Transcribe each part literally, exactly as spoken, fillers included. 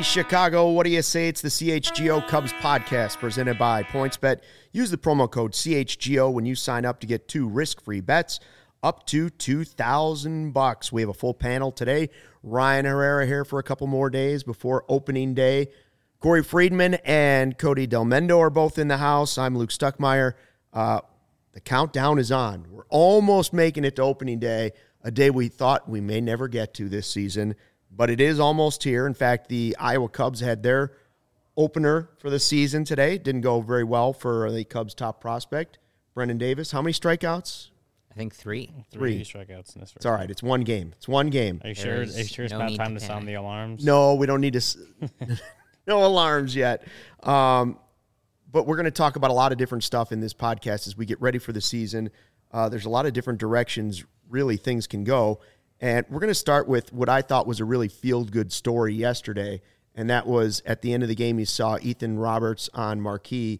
Chicago, what do you say? It's the C H G O Cubs podcast presented by PointsBet. Use the promo code C H G O when you sign up to get two risk-free bets up to two thousand bucks. We have a full panel today. Ryan Herrera here for a couple more days before opening day. Corey Friedman and Cody Del Mendo are both in the house. I'm Luke Stuckmeyer. Uh, the countdown is on. We're almost making it to opening day, a day we thought we may never get to this season. But it is almost here. In fact, the Iowa Cubs had their opener for the season today. Didn't go very well for the Cubs' top prospect, Brendan Davis. How many strikeouts? I think three. Three, three strikeouts in this. It's all right. It's one game. It's one game. Are you sure? Are you sure it's no not time to to sound the alarms? No, we don't need to. No alarms yet. Um, but we're going to talk about a lot of different stuff in this podcast as we get ready for the season. Uh, there's a lot of different directions, really, things can go. And we're going to start with what I thought was a really feel-good story yesterday, and that was at the end of the game you saw Ethan Roberts on Marquee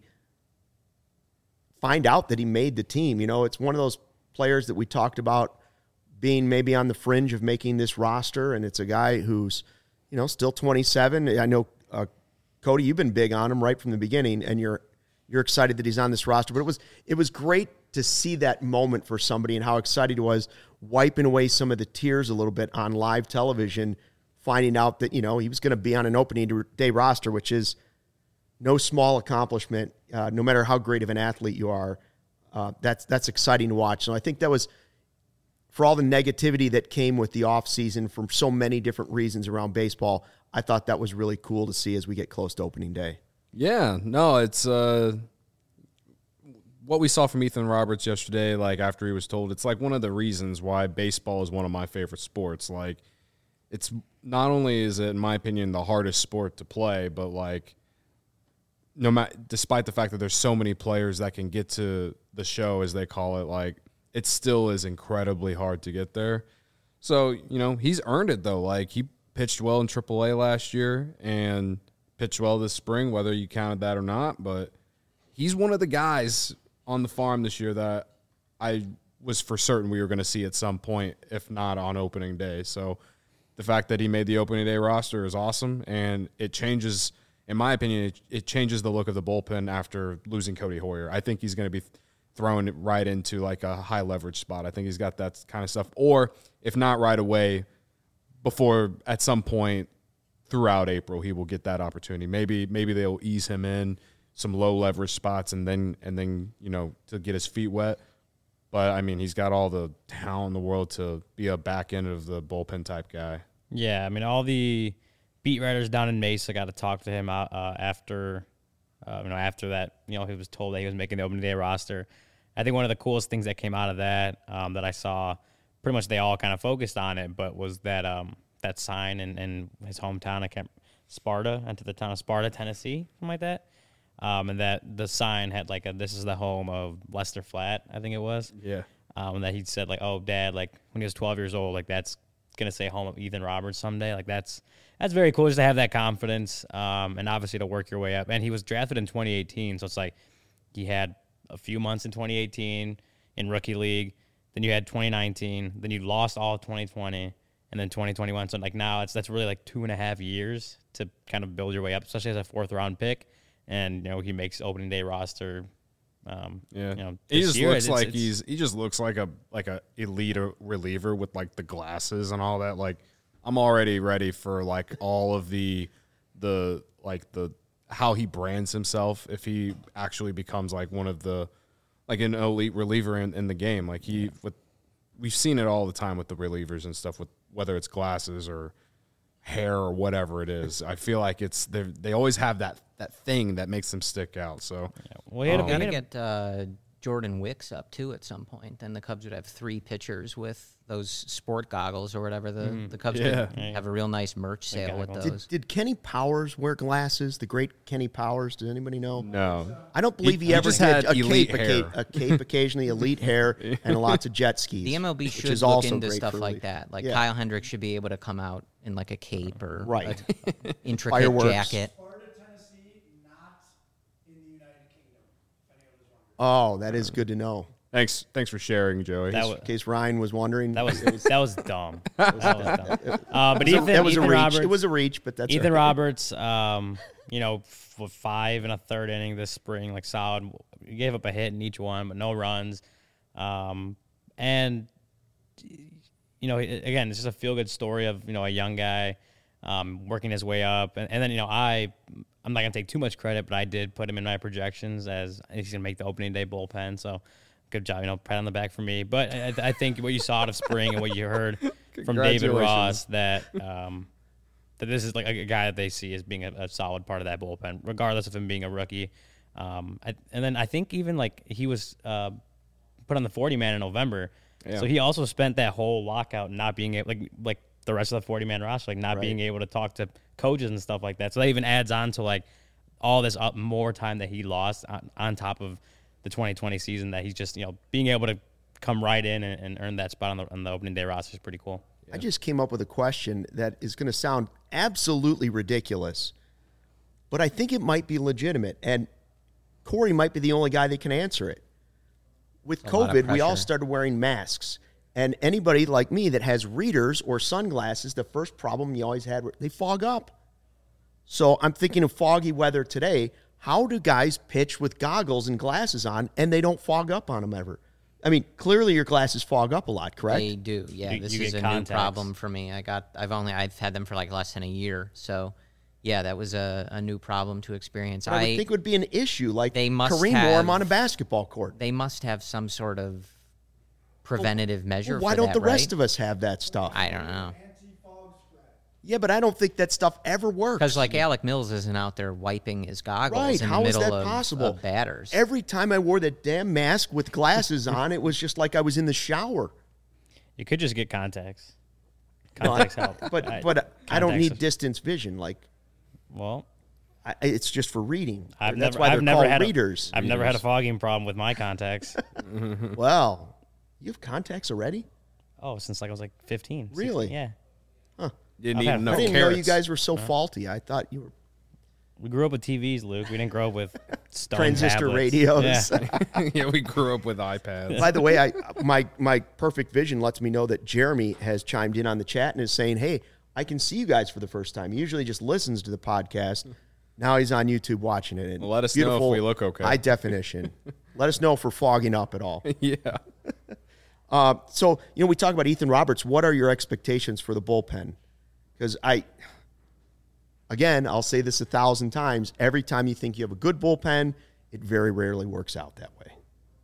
find out that he made the team. You know, it's one of those players that we talked about being maybe on the fringe of making this roster, and it's a guy who's, you know, still twenty-seven. I know, uh, Cody, you've been big on him right from the beginning, and you're you're excited that he's on this roster. But it was it was great to see that moment for somebody and how excited he was, wiping away some of the tears a little bit on live television, finding out that, you know, he was going to be on an opening day roster, which is no small accomplishment, uh, no matter how great of an athlete you are. Uh, that's that's exciting to watch. So I think that was, for all the negativity that came with the offseason from so many different reasons around baseball, I thought that was really cool to see as we get close to opening day. Yeah, no, it's uh, what we saw from Ethan Roberts yesterday, like after he was told, it's like one of the reasons why baseball is one of my favorite sports. Like, it's not only is it, in my opinion, the hardest sport to play, but like, no matter, despite the fact that there's so many players that can get to the show, as they call it, like, it still is incredibly hard to get there. So, you know, he's earned it though. Like, he pitched well in triple A last year and pitched well this spring, whether you counted that or not, but he's one of the guys on the farm this year that I was for certain we were going to see at some point, if not on opening day. So the fact that he made the opening day roster is awesome, and it changes, in my opinion, it, it changes the look of the bullpen after losing Cody Hoyer. I think he's going to be thrown right into like a high leverage spot. I think he's got that kind of stuff, or if not right away, before at some point throughout April, he will get that opportunity. Maybe maybe they'll ease him in some low leverage spots and then, and then, you know, to get his feet wet. But, I mean, he's got all the talent in the world to be a back end of the bullpen type guy. Yeah, I mean, all the beat writers down in Mesa got to talk to him uh, after, uh, you know, after that, you know, he was told that he was making the opening day roster. I think one of the coolest things that came out of that um, that I saw, pretty much they all kind of focused on it, but was that um, that sign in, in his hometown, I can't, Sparta, into the town of Sparta, Tennessee, something like that. Um, and that the sign had like a, this is the home of Lester Flatt, I think it was. Yeah. Um, and that he said like, oh, Dad, like when he was twelve years old, like that's going to say home of Ethan Roberts someday. Like that's, that's very cool just to have that confidence. Um, and obviously to work your way up. And he was drafted in twenty eighteen. So it's like he had a few months in twenty eighteen in rookie league. Then you had twenty nineteen. Then you lost all of twenty twenty. And then twenty twenty-one. So like now it's, that's really like two and a half years to kind of build your way up, especially as a fourth round pick. And, you know, he makes opening day roster. Um, yeah. You know, he just year, looks it's, like it's, he's, he just looks like a, like a elite reliever with like the glasses and all that. Like, I'm already ready for like all of the, the, like the, how he brands himself if he actually becomes like one of the, like an elite reliever in, in the game. Like he, with, we've seen it all the time with the relievers and stuff, with whether it's glasses or hair or whatever it is. I feel like it's they they always have that that thing that makes them stick out. So yeah. Well, he had um, a, got to he had get uh, Jordan Wicks up too at some point. Then the Cubs would have three pitchers with those sport goggles or whatever. The Mm, the Cubs yeah. could have a real nice merch sale with goggles. those. Did, did Kenny Powers wear glasses? The great Kenny Powers? Does anybody know? no, I don't believe he, He- he ever just did. had A elite cape, a hair. cape, a cape occasionally, elite hair, and lots of jet skis. The M L B which should is look also into great stuff for like relief. that. Like Yeah. Kyle Hendricks should be able to come out in like a cape or Right. a intricate Fireworks. jacket. Sparta, Tennessee, not in the United Kingdom, if anyone was wondering. Oh, that is good to know. Thanks, thanks for sharing, Joey. That In was case Ryan was wondering. that was that was dumb. That was dumb. Uh, but Ethan, that was Ethan a reach. Roberts, It was a reach, but that's Ethan all right. Roberts, um, you know, f- five and a third inning this spring, like solid. He gave up a hit in each one, but no runs. Um, and you know, again, it's just a feel good story of you know a young guy um, working his way up, and, and then you know I. I'm not gonna take too much credit, but I did put him in my projections as he's gonna make the opening day bullpen. So, good job, you know, pat on the back for me. But I, I think what you saw out of spring and what you heard from David Ross that um, that this is like a, a guy that they see as being a, a solid part of that bullpen, regardless of him being a rookie. Um, I, and then I think even like he was uh, put on the forty man in November, Yeah. so he also spent that whole lockout not being able like like. the rest of the forty man roster, like not Right. being able to talk to coaches and stuff like that. So that even adds on to like all this up more time that he lost on, on top of the twenty twenty season that he's just, you know, being able to come right in and, and earn that spot on the, on the opening day roster is pretty cool. I just came up with a question that is going to sound absolutely ridiculous, but I think it might be legitimate. And Corey might be the only guy that can answer it. With A lot of COVID, we all pressure. started wearing masks. And anybody like me that has readers or sunglasses, the first problem you always had, they fog up. So I'm thinking of foggy weather today. How do guys pitch with goggles and glasses on and they don't fog up on them ever? I mean, clearly your glasses fog up a lot, correct? They do, yeah. You- this you is get a contacts. new problem for me. I got, I've only, I've had them for like less than a year, so yeah, that was a, a new problem to experience. I would think it would be an issue, like They must Kareem have- Warm on a basketball court. they must have some sort of preventative measure. Why for don't that, the rest right? of us have that stuff? I don't know. Yeah, but I don't think that stuff ever works. Because like Alec Mills isn't out there wiping his goggles Right, in how the is middle that of, possible? of batters. Every time I wore that damn mask with glasses on, it was just like I was in the shower. You could just get contacts. No, I- Contacts help. But I- but I don't contacts need is- distance vision. Like Well, I, it's just for reading. I've That's never, why they're I've never called had readers. A, I've never had a fogging problem with my contacts. Well, you have contacts already? oh, since like I was like fifteen. sixteen, Really? Yeah. Didn't I've eat had- enough I didn't carrots. know you guys were so faulty. I thought you were We grew up with T Vs, Luke. We didn't grow up with stone transistor tablets. radios. Yeah. yeah, we grew up with iPads. By the way, I my my perfect vision lets me know that Jeremy has chimed in on the chat and is saying, "Hey, I can see you guys for the first time." He usually just listens to the podcast. Now he's on YouTube watching it. And Well, let us know if beautiful we look okay. High definition. Let us know if we're fogging up at all. yeah. Uh, so, you know, we talk about Ethan Roberts. What are your expectations for the bullpen? Because I, again, I'll say this a thousand times. Every time you think you have a good bullpen, it very rarely works out that way.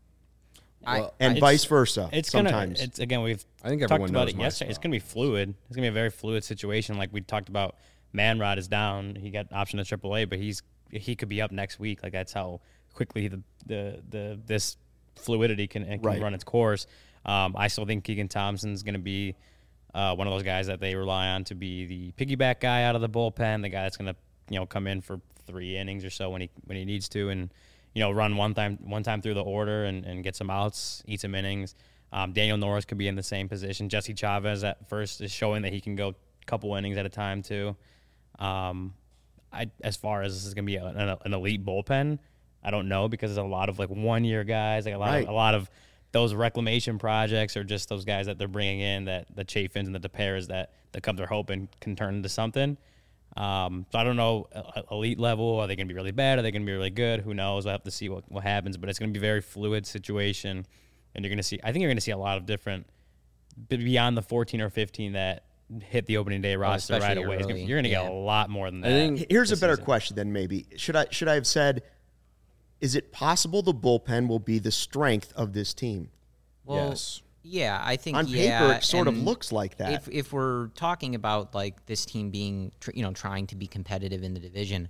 I, And It's- vice versa. It's sometimes. gonna. It's again. We've I think talked everyone about knows it my yesterday. It's spot. gonna be fluid. It's gonna be a very fluid situation. Like we talked about, Manrod is down. He got option to triple A, but he's he could be up next week. Like that's how quickly the the, the this fluidity can, can Right. run its course. Um, I still think Keegan Thompson's gonna be uh, one of those guys that they rely on to be the piggyback guy out of the bullpen, the guy that's gonna you know come in for three innings or so when he when he needs to, and you know run one time one time through the order and, and get some outs, eat some innings. Um, Daniel Norris could be in the same position. Jesse Chavez at first is showing that he can go a couple innings at a time too. Um, I as far as this is gonna be a, an, an elite bullpen, I don't know because there's a lot of like one year guys, like a lot Right. of, a lot of those reclamation projects or just those guys that they're bringing in that the Chafins and the DePairs that the Cubs are hoping can turn into something. Um, so I don't know, uh, elite level, are they going to be really bad? Are they going to be really good? Who knows? I have to see what, what happens, but it's going to be a very fluid situation. And you're going to see, I think you're going to see a lot of different, beyond the fourteen or fifteen that hit the opening day roster right especially away. It's gonna- early, You're going to get yeah. a lot more than that. think- Here's a this better season. question then maybe. Should I should I have said, is it possible the bullpen will be the strength of this team? well, Yes. yeah, I think On yeah, paper, it sort of and looks like that. If if we're talking about like this team being, tr- you know, trying to be competitive in the division,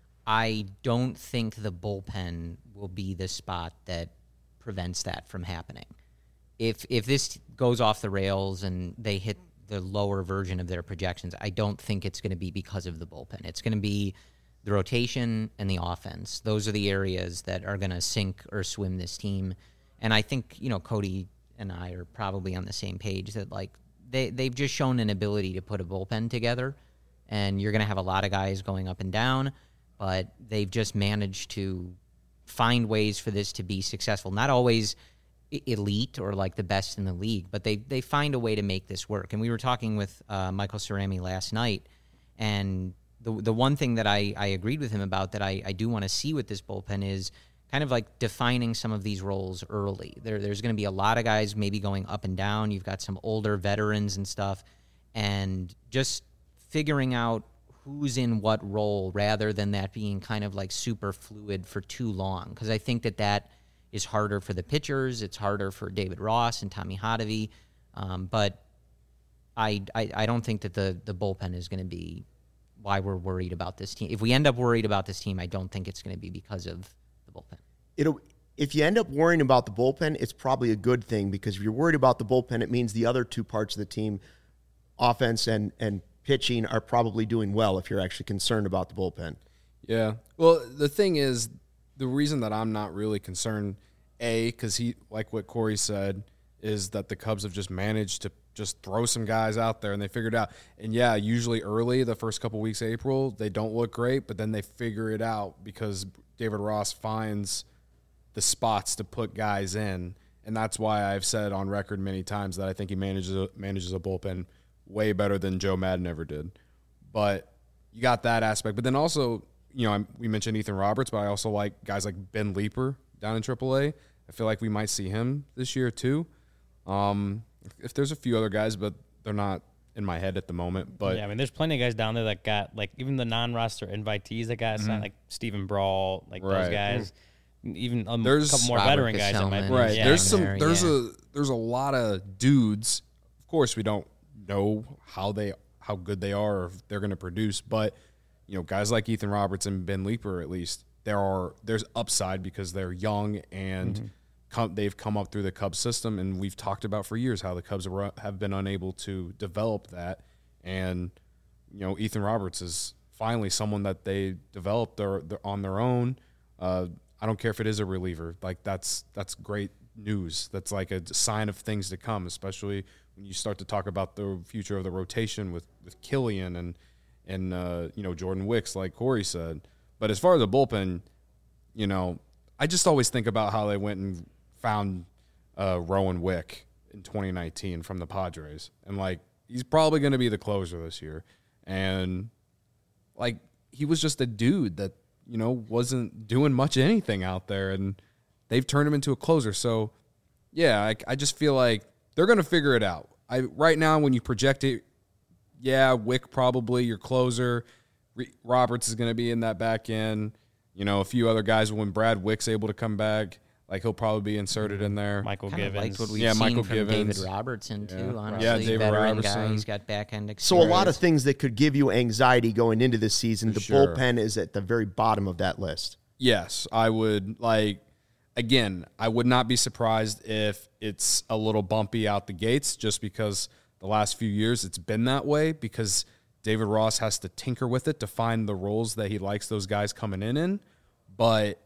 I don't think the bullpen will be the spot that prevents that from happening. If if this goes off the rails and they hit the lower version of their projections, I don't think it's going to be because of the bullpen. It's going to be the rotation and the offense. Those are the areas that are going to sink or swim this team. And I think, you know, Cody and I are probably on the same page that, like, they, they've just shown an ability to put a bullpen together, and you're going to have a lot of guys going up and down, but they've just managed to find ways for this to be successful. Not always elite or like the best in the league, but they they find a way to make this work. And we were talking with uh, Michael Cerami last night, and the the one thing that I, I agreed with him about that I, I do want to see with this bullpen is kind of like defining some of these roles early. There there's going to be a lot of guys maybe going up and down. You've got some older veterans and stuff, and just figuring out who's in what role rather than that being kind of like super fluid for too long. Because I think that that is harder for the pitchers. It's harder for David Ross and Tommy Hotovy. Um, but I, I I don't think that the the bullpen is going to be why we're worried about this team. If we end up worried about this team, I don't think it's going to be because of the bullpen. It'll if you end up worrying about the bullpen, it's probably a good thing, because if you're worried about the bullpen, it means the other two parts of the team, offense and and pitching, are probably doing well if you're actually concerned about the bullpen. Yeah. Well, the thing is, the reason that I'm not really concerned, A, because he, like what Corey said, is that the Cubs have just managed to just throw some guys out there and they figured it out. And yeah, usually early, the first couple weeks of April, they don't look great, but then they figure it out because David Ross finds the spots to put guys in. And that's why I've said on record many times that I think he manages a, manages a bullpen way better than Joe Madden ever did. But you got that aspect. But then also, you know, I'm, we mentioned Ethan Roberts, but I also like guys like Ben Leeper down in triple A. I feel like we might see him this year too. Um, if there's a few other guys, but they're not in my head at the moment. But yeah, I mean, there's plenty of guys down there that got, like, even the non-roster invitees that got mm-hmm. signed, like Stephen Brawl, like right. those guys. Mm-hmm. Even a there's couple more Robert veteran guys that might be. Right. Yeah, there's some. there, There's yeah. a. There's a lot of dudes. Of course, we don't know how they how good they are or if they're going to produce, but you know, guys like Ethan Roberts and Ben Leeper, at least there are there's upside because they're young and mm-hmm. come, they've come up through the Cubs system, and we've talked about for years how the Cubs are, have been unable to develop that. And you know, Ethan Roberts is finally someone that they developed their, their, on their own. Uh, I don't care if it is a reliever. Like that's that's great news. That's like a sign of things to come, especially when you start to talk about the future of the rotation with, with Killian and and uh, you know, Jordan Wicks, like Corey said. But as far as the bullpen, you know, I just always think about how they went and found uh, Rowan Wick in twenty nineteen from the Padres, and like he's probably going to be the closer this year, and like he was just a dude that, you know, wasn't doing much anything out there, and they've turned him into a closer. So, yeah, I, I just feel like they're going to figure it out. I right now, when you project it, yeah, Wick probably your closer. Re- Roberts is going to be in that back end. You know, a few other guys. When Brad Wick's able to come back, like he'll probably be inserted in there. Michael Kind of Givens. liked what we've Yeah, seen Michael from Givens. David Robertson too. Yeah. Honestly, Yeah, David veteran Robertson. guy. He's got back end experience. So a lot of things that could give you anxiety going into this season. The Sure. bullpen is at the very bottom of that list. Yes, I would like. Again, I would not be surprised if it's a little bumpy out the gates, just because the last few years it's been that way, because David Ross has to tinker with it to find the roles that he likes those guys coming in in. But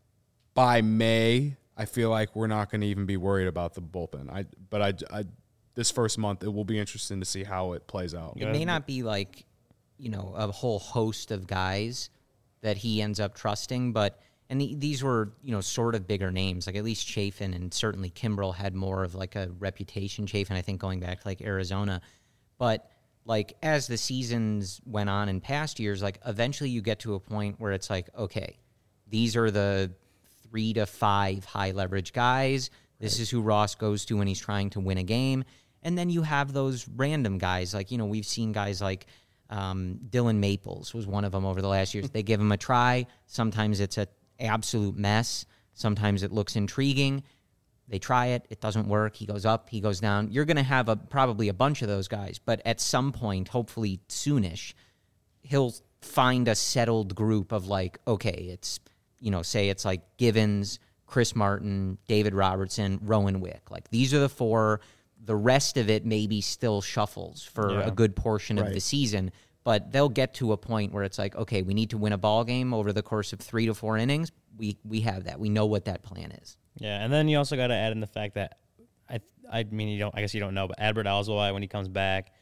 by May, I feel like we're not going to even be worried about the bullpen. I but I, I this first month it will be interesting to see how it plays out. It may not be like, you know, a whole host of guys that he ends up trusting, but and the, these were, you know, sort of bigger names. Like at least Chafin and certainly Kimbrel had more of like a reputation. Chafin, I think, going back to like Arizona, but like as the seasons went on in past years, like eventually you get to a point where it's like, okay, these are the three to five high leverage guys. This right. is who Ross goes to when he's trying to win a game. And then you have those random guys. Like, you know, we've seen guys like um, Dylan Maples was one of them over the last years. They give him a try. Sometimes it's an absolute mess. Sometimes it looks intriguing. They try it. It doesn't work. He goes up. He goes down. You're going to have a probably a bunch of those guys. But at some point, hopefully soonish, he'll find a settled group of like, okay, it's, you know, say it's like Givens, Chris Martin, David Robertson, Rowan Wick. Like these are the four. The rest of it maybe still shuffles for Yeah. a good portion of Right. the season. But they'll get to a point where it's like, okay, we need to win a ball game over the course of three to four innings. We we have that. We know what that plan is. Yeah, and then you also got to add in the fact that I I mean you don't I guess you don't know, but Adbert Alzolay, when he comes back,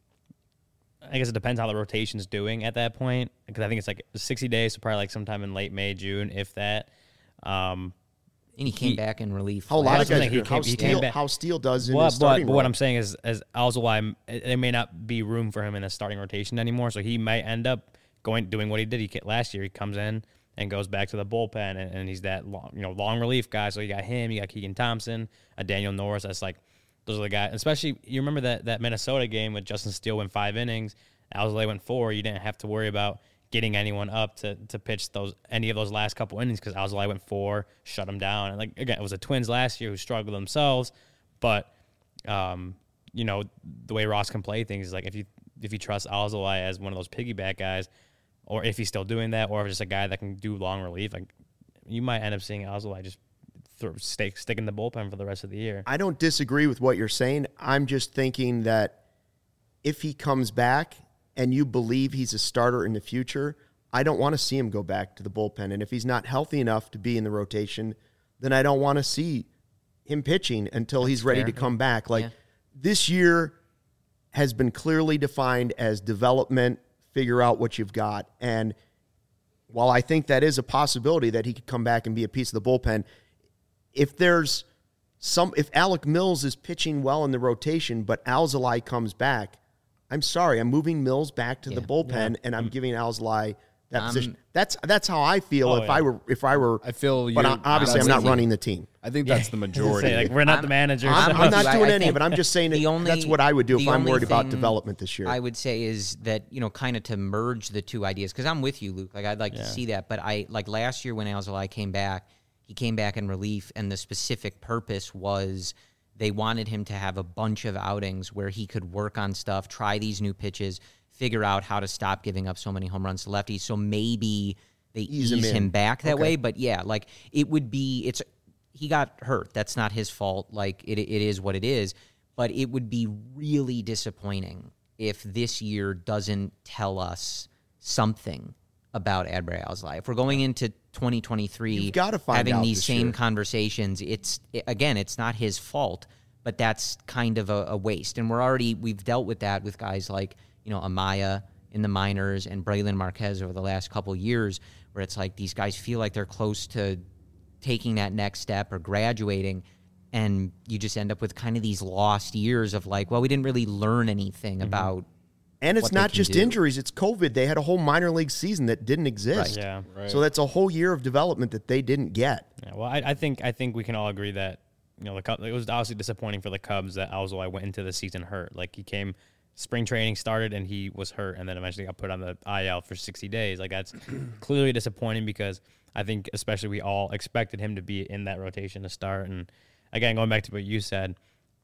I guess it depends how the rotation's doing at that point, because I think it's like sixty days, so probably like sometime in late May, June, if that. Um, And he came he- back in relief. How a lot last of that's guys what I'm saying, do. he How came- he Steele, came back. how Steele does in Well, his but, starting but role. what I'm saying is, as Alzolay, there may not be room for him in a starting rotation anymore, so he might end up going doing what he did. He ca- last year. He comes in and goes back to the bullpen, and, and he's that long, you know, long relief guy. So you got him, you got Keegan Thompson, a Daniel Norris. That's like those are the guys. Especially you remember that that Minnesota game with Justin Steele went five innings, Alzolay went four. You didn't have to worry about getting anyone up to to pitch those any of those last couple innings because Alzolay went four, shut him down. And like again, it was the Twins last year who struggled themselves, but um, you know the way Ross can play things is like if you if you trust Alzolay as one of those piggyback guys, or if he's still doing that, or if it's just a guy that can do long relief, like you might end up seeing Alzolay just throw, stick stick in the bullpen for the rest of the year. I don't disagree with what you're saying. I'm just thinking that if he comes back and you believe he's a starter in the future, I don't want to see him go back to the bullpen. And if he's not healthy enough to be in the rotation, then I don't want to see him pitching until That's he's ready fair. to come back. Like Yeah. this year has been clearly defined as development, figure out what you've got. And while I think that is a possibility that he could come back and be a piece of the bullpen, if there's some, if Alec Mills is pitching well in the rotation, but Alzolay comes back, I'm sorry, I'm moving Mills back to the Yeah. bullpen, and I'm giving Alzolay that Um, position. That's that's how I feel Oh, if yeah. I were if I were. I feel but you- I- obviously, I'm I'm not with you. running the team. I think that's the majority. Say, like, we're not I'm- the manager. I'm, so- I'm not I- doing I any of think it. I'm just saying the it, only- that's what I would do if the I'm only worried about thing development this year. I would say is that, you know, kind of to merge the two ideas, because I'm with you, Luke. Like, I'd like Yeah. to see that. But I, like last year when Alzolay came back, he came back in relief, and the specific purpose was they wanted him to have a bunch of outings where he could work on stuff, try these new pitches, figure out how to stop giving up so many home runs to lefties. So maybe they Ease ease, him him, in. back that Okay. way. But yeah, like it would be, it's, he got hurt. That's not his fault. Like it, it is what it is. But it would be really disappointing if this year doesn't tell us something about Adbry Alzolay. If we're going into twenty twenty-three, You've gotta find having out these this same year. conversations, it's it, again, it's not his fault, but that's kind of a, a waste. And we're already we've dealt with that with guys like, you know, Amaya in the minors and Braylon Marquez over the last couple years, where it's like these guys feel like they're close to taking that next step or graduating, and you just end up with kind of these lost years of like, well, we didn't really learn anything about. and it's what they not can just do. injuries; it's COVID. They had a whole minor league season that didn't exist. Yeah. Right. So that's a whole year of development that they didn't get. Yeah, well, I, I think I think we can all agree that you know the Cubs, it was obviously disappointing for the Cubs that Alzolay went into the season hurt. Like he came, spring training started and he was hurt, and then eventually got put on the I L for sixty days. Like that's clearly disappointing because I think especially we all expected him to be in that rotation to start. And again, going back to what you said,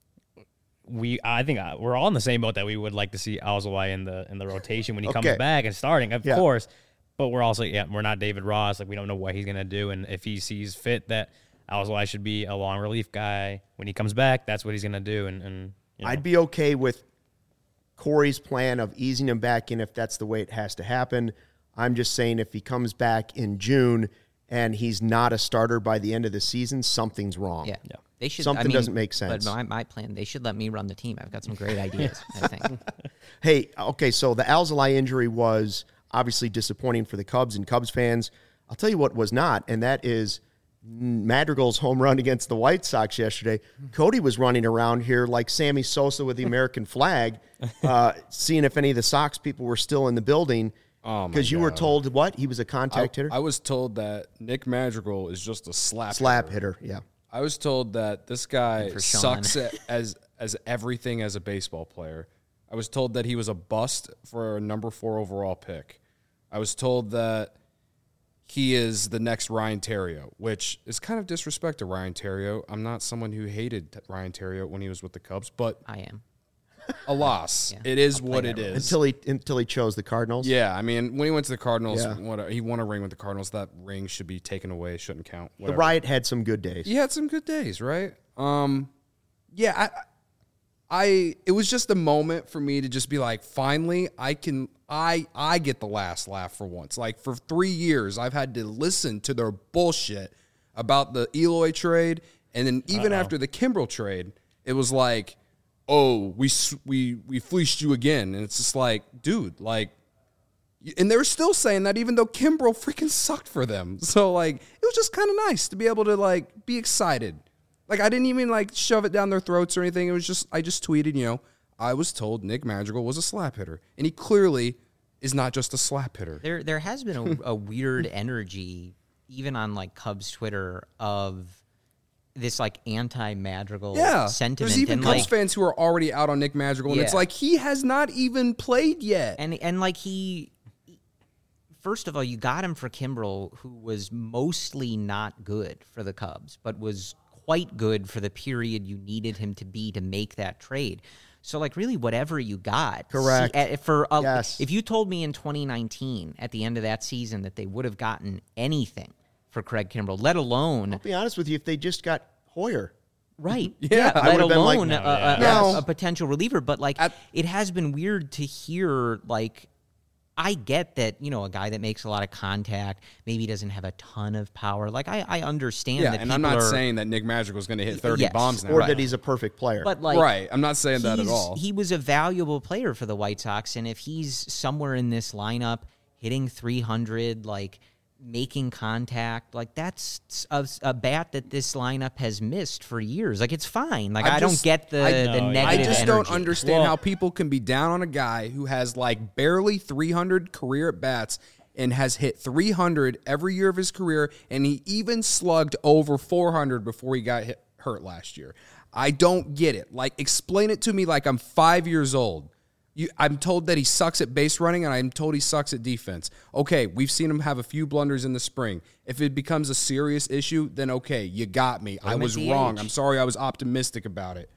we I think uh, we're all in the same boat that we would like to see Alzolay in the in the rotation when he Okay. comes back and starting, of Yeah. course. But we're also yeah, we're not David Ross. Like we don't know what he's gonna do, and if he sees fit that Alzolay should be a long relief guy when he comes back, that's what he's gonna do. And and you know. I'd be okay with Corey's plan of easing him back in if that's the way it has to happen. I'm just saying if he comes back in June and he's not a starter by the end of the season, something's wrong. Yeah. Yeah. They should. Something I mean, doesn't make sense. But my, my plan, they should let me run the team. I've got some great ideas, I think. Hey, okay, so the Alzolay injury was obviously disappointing for the Cubs and Cubs fans. I'll tell you what was not, and that is Madrigal's home run against the White Sox yesterday. Cody was running around here like Sammy Sosa with the American flag, uh, seeing if any of the Sox people were still in the building. Oh, my Because you were God. told what? He was a I, contact hitter? I was told that Nick Madrigal is just a slap Slap hitter. hitter, yeah. I was told that this guy for Sean. sucks at, as as everything as a baseball player. I was told that he was a bust for a number four overall pick. I was told that he is the next Ryan Terrio, which is kind of disrespect to Ryan Terrio. I'm not someone who hated Ryan Terrio when he was with the Cubs, but I am. alas, Yeah, it is I'll play what that it role. is. Until he until he chose the Cardinals. Yeah, I mean, when he went to the Cardinals, Yeah. what, he won a ring with the Cardinals. That ring should be taken away. Shouldn't count. The Whatever. Riot had some good days. He had some good days, right? Um, yeah, I, I, it was just a moment for me to just be like, finally, I can, I, I get the last laugh for once. Like for three years, I've had to listen to their bullshit about the Eloy trade, and then even Uh-oh. after the Kimbrel trade, it was like, oh, we s- we we fleeced you again, and it's just like, dude, like, And they were still saying that even though Kimbrel freaking sucked for them. So, like, it was just kind of nice to be able to, like, be excited. Like, I didn't even, like, shove it down their throats or anything. It was just, I just tweeted, you know, I was told Nick Madrigal was a slap hitter. And he clearly is not just a slap hitter. There there has been a, a weird energy, even on, like, Cubs Twitter, of this, like, anti-Madrigal Yeah, sentiment. there's even and, Cubs like, fans who are already out on Nick Madrigal. And it's Yeah. like, he has not even played yet. And, and like, he... First of all, you got him for Kimbrel, who was mostly not good for the Cubs, but was quite good for the period you needed him to be to make that trade. So, like, really, whatever you got. Correct. See, uh, for a, Yes. If you told me in twenty nineteen, at the end of that season, that they would have gotten anything for Craig Kimbrel, let alone... I'll be honest with you, if they just got Hoyer. Right. Yeah. I let would've been like, alone no, a, a, yeah. a, a potential reliever. But, like, At- it has been weird to hear, like... I get that, you know, a guy that makes a lot of contact maybe doesn't have a ton of power. Like, I, I understand Yeah, that and I'm people not are, saying that Nick Madrigal is going to hit thirty Yes. bombs now. Or Right. that he's a perfect player. but, like, right. I'm not saying that at he's- all. He was a valuable player for the White Sox, and if he's somewhere in this lineup hitting three hundred, like, making contact, like, that's a, a bat that this lineup has missed for years. Like, it's fine. Like, I'm I just- don't get the, I- the No, yeah. negative I just don't energy. understand Well- how people can be down on a guy who has like barely three hundred career at bats and has hit three hundred every year of his career, and he even slugged over four hundred before he got hit, hurt last year. I don't get it. Like, explain it to me like I'm five years old. You, I'm told that he sucks at base running, and I'm told he sucks at defense. Okay, we've seen him have a few blunders in the spring. If it becomes a serious issue, then okay, you got me. I him at was D H. wrong. I'm sorry I was optimistic about it.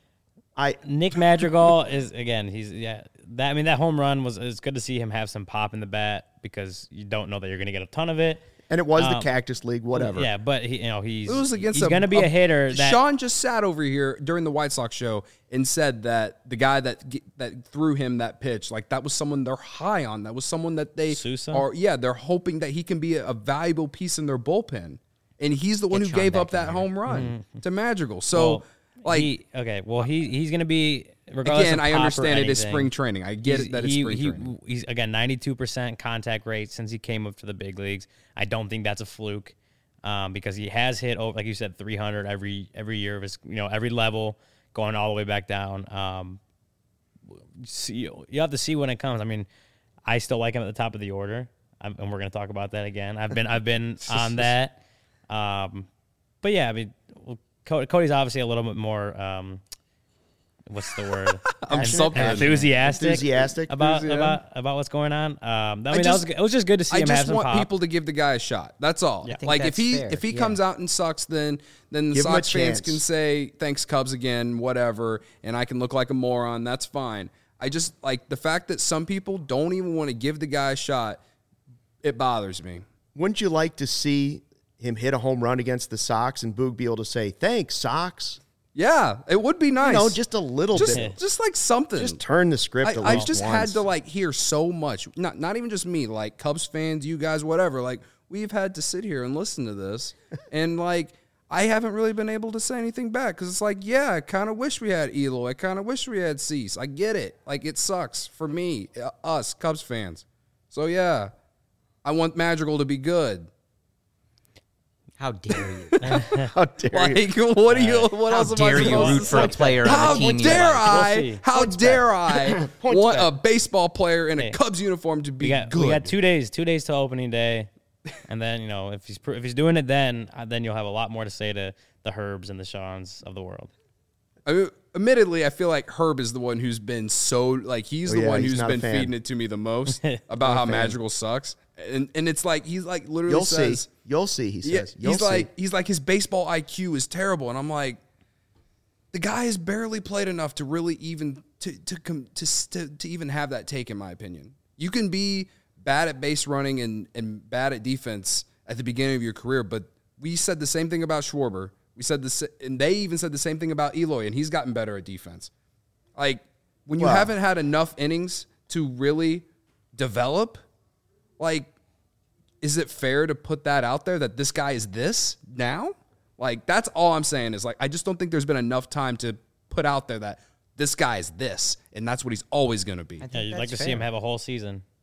I Nick Madrigal is again. He's yeah. That I mean, that home run was. It's good to see him have some pop in the bat because you don't know that you're going to get a ton of it. and it was the Um, Cactus League, whatever. Yeah, but he, you know, he's It was against he's a, going to be a, hitter. That, Sean just sat over here during the White Sox show and said that the guy that g- that threw him that pitch, like that was someone they're high on. That was someone that they Sousa? are. Yeah, they're hoping that he can be a, a valuable piece in their bullpen, and he's the one Get who Sean gave up back in that here. home run to Madrigal. So, well, like he, okay, well he he's going to be regardless again, of I pop or understand it is anything, spring training. I get he's- it that it's he- spring he- training. He's again ninety-two percent contact rate since he came up to the big leagues. I don't think that's a fluke um, because he has hit over, like you said, three hundred every every year of his, you know, every level going all the way back down. Um, see, you have to see when it comes. I mean, I still like him at the top of the order, I'm, and we're going to talk about that again. I've been I've been on that, um, but yeah, I mean, well, Co- Cody's obviously a little bit more. Um, what's the word? I'm so passionate. enthusiastic, Enthusiastic. about Enthusiasm. about about what's going on. Um, I mean, that just- was it was just good to see I him have just some want pop. people to give the guy a shot. That's all. I think Like if that's he fair, if he yeah. comes out and sucks, then then the Give him a Sox fans chance. can say thanks Cubs again, whatever, and I can look like a moron. That's fine. I just like the fact that some people don't even want to give the guy a shot. It bothers me. Wouldn't you like to see him hit a home run against the Sox and Boog be able to say, thanks, Sox? Yeah, it would be nice. You know, just a little just bit. just like something. Just turn the script a I, little I've just had once. to like hear so much. Not not even just me, like Cubs fans, you guys, whatever. Like we've had to sit here and listen to this, and like I haven't really been able to say anything back because it's like, yeah, I kind of wish we had Elo. I kind of wish we had Cease. I get it. Like it sucks for me, uh, us Cubs fans. So yeah, I want Madrigal to be good. How dare you? How dare you? Like, what do you? What How else am I dare you supposed root to for a say? player on How a team you dare like? We'll I? see. How dare I Points want back. a baseball player in a Hey. Cubs uniform to be we got good? we got two days, two days till opening day, and then you know if he's pr- if he's doing it, then uh, then you'll have a lot more to say to the Herbs and the Shawns of the world. I mean, admittedly, I feel like Herb is the one who's been so like he's Oh, the yeah, one he's who's not a been fan. feeding it to me the most about how Madrigal sucks, and and it's like he's like literally You'll says, see. You'll see, he yeah, says. You'll he's see. like he's like his baseball I Q is terrible, and I'm like, the guy has barely played enough to really even to to com, to, to to even have that take, in my opinion. You can be bad at base running and and bad at defense at the beginning of your career, but we said the same thing about Schwarber. We said this, and they even said the same thing about Eloy, and he's gotten better at defense. Like when you Well- haven't had enough innings to really develop, like, is it fair to put that out there that this guy is this now? Like that's all I'm saying is like I just don't think there's been enough time to put out there that this guy is this, and that's what he's always going to be. I think Yeah, you'd like that's to see him fair. have a whole season.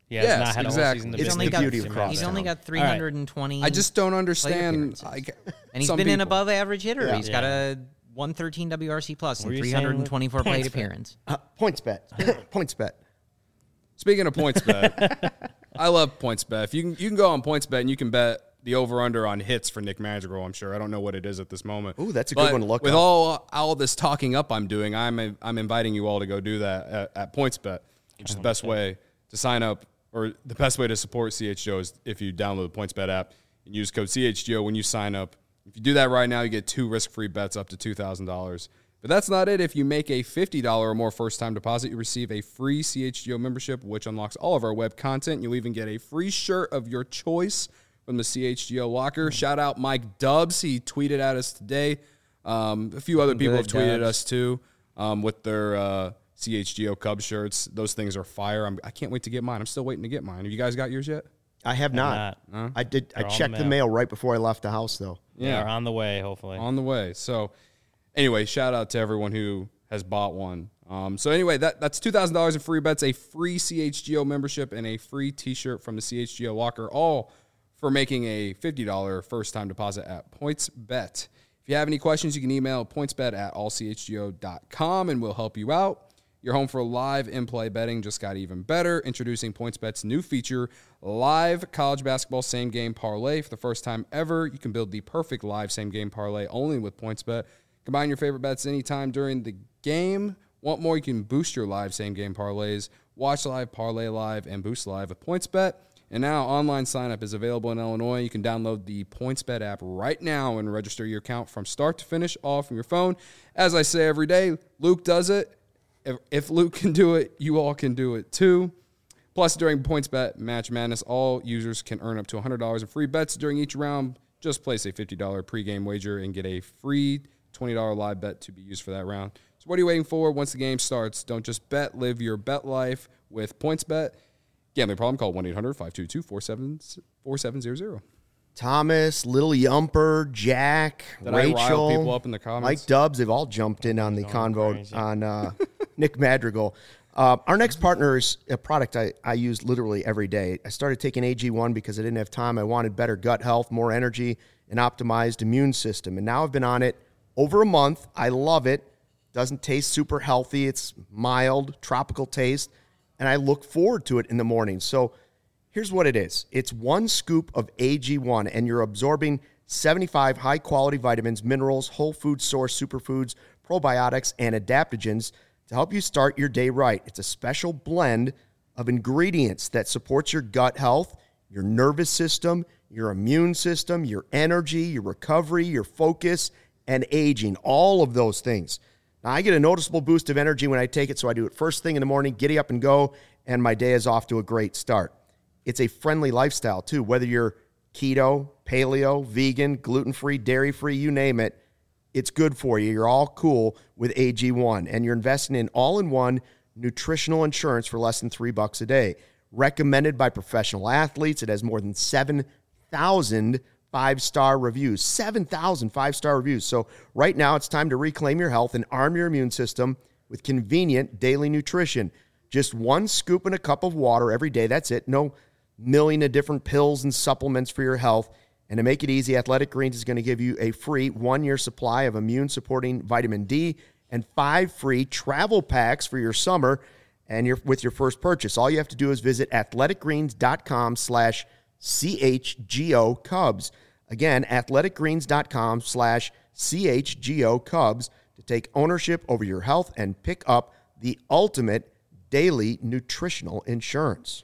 He has Yes, not had exactly. a whole season to It's He's build only the got beauty of he's Crosstown. only got three All right. hundred twenty. I just don't plate understand. appearances. I, and he's some been an people- above average hitter. Yeah. He's got a one thirteen W R C plus What were and you saying three with twenty-four plate points bet? appearance. Uh, points bet. points bet. Speaking of points bet, I love points bet. If you can, you can go on points bet and you can bet the over under on hits for Nick Madrigal. I'm sure I don't know what it is at this moment. Ooh, that's a good But one to look With up. all all this talking up I'm doing, I'm I'm inviting you all to go do that at, at points bet, which is the best way to sign up, or the best way to support C H G O is if you download the points bet app and use code C H G O when you sign up. If you do that right now, you get two risk free bets up to two thousand dollars. But that's not it. If you make a fifty dollars or more first-time deposit, you receive a free C H G O membership, which unlocks all of our web content. You'll even get a free shirt of your choice from the C H G O locker. Shout out Mike Dubs. He tweeted at us today. Um, a few other people Good, have tweeted Dubs. us too um, with their uh, C H G O Cubs shirts. Those things are fire. I'm, I can't wait to get mine. I'm still waiting to get mine. Have you guys got yours yet? I have not. not. I did. I They're on the checked the mail. mail right before I left the house, though. Yeah, on the way, hopefully. On the way. So anyway, shout out to everyone who has bought one. Um, so anyway, that, that's two thousand dollars in free bets, a free C H G O membership, and a free T-shirt from the C H G O locker, all for making a fifty dollars first-time deposit at PointsBet. If you have any questions, you can email pointsbet at all c h g o dot com, and we'll help you out. Your home for live in-play betting just got even better. Introducing PointsBet's new feature, Live College Basketball Same Game Parlay. For the first time ever, you can build the perfect live same game parlay only with PointsBet. Combine your favorite bets anytime during the game. Want more? You can boost your live same game parlays. Watch live, parlay live, and boost live with PointsBet. And now online sign-up is available in Illinois. You can download the PointsBet app right now and register your account from start to finish, all from your phone. As I say every day, Luke does it. If, if Luke can do it, you all can do it too. Plus, during PointsBet Match Madness, all users can earn up to one hundred dollars in free bets during each round. Just place a fifty dollars pregame wager and get a free twenty dollars live bet to be used for that round. So what are you waiting for? Once the game starts, don't just bet, live your bet life with PointsBet. Gambling problem? Call one eight hundred five two two four seven zero zero. Thomas, Little Yumper, Jack, Did I Rachel, rile people up in the comments? Mike Dubs, they've all jumped in on the convo crazy. on uh, Nick Madrigal. Uh, our next partner is a product I, I use literally every day. I started taking A G one because I didn't have time. I wanted better gut health, more energy, an optimized immune system. And now I've been on it over a month. I love it. Doesn't taste super healthy. It's mild, tropical taste. And I look forward to it in the morning. So here's what it is. It's one scoop of A G one, and you're absorbing seventy-five high-quality vitamins, minerals, whole food source superfoods, probiotics, and adaptogens to help you start your day right. It's a special blend of ingredients that supports your gut health, your nervous system, your immune system, your energy, your recovery, your focus, and aging, all of those things. Now, I get a noticeable boost of energy when I take it, so I do it first thing in the morning, giddy up and go, and my day is off to a great start. It's a friendly lifestyle, too. Whether you're keto, paleo, vegan, gluten-free, dairy-free, you name it, it's good for you. You're all cool with A G one, and you're investing in all-in-one nutritional insurance for less than three bucks a day. Recommended by professional athletes. It has more than seven thousand five-star reviews. seven thousand five-star reviews. So right now, it's time to reclaim your health and arm your immune system with convenient daily nutrition. Just one scoop in a cup of water every day. That's it. No million of different pills and supplements for your health. And to make it easy, Athletic Greens is going to give you a free one-year supply of immune-supporting vitamin D and five free travel packs for your summer and your, with your first purchase. All you have to do is visit athleticgreens.com slash CHGO Cubs. Again, athleticgreens.com slash CHGO Cubs to take ownership over your health and pick up the ultimate daily nutritional insurance.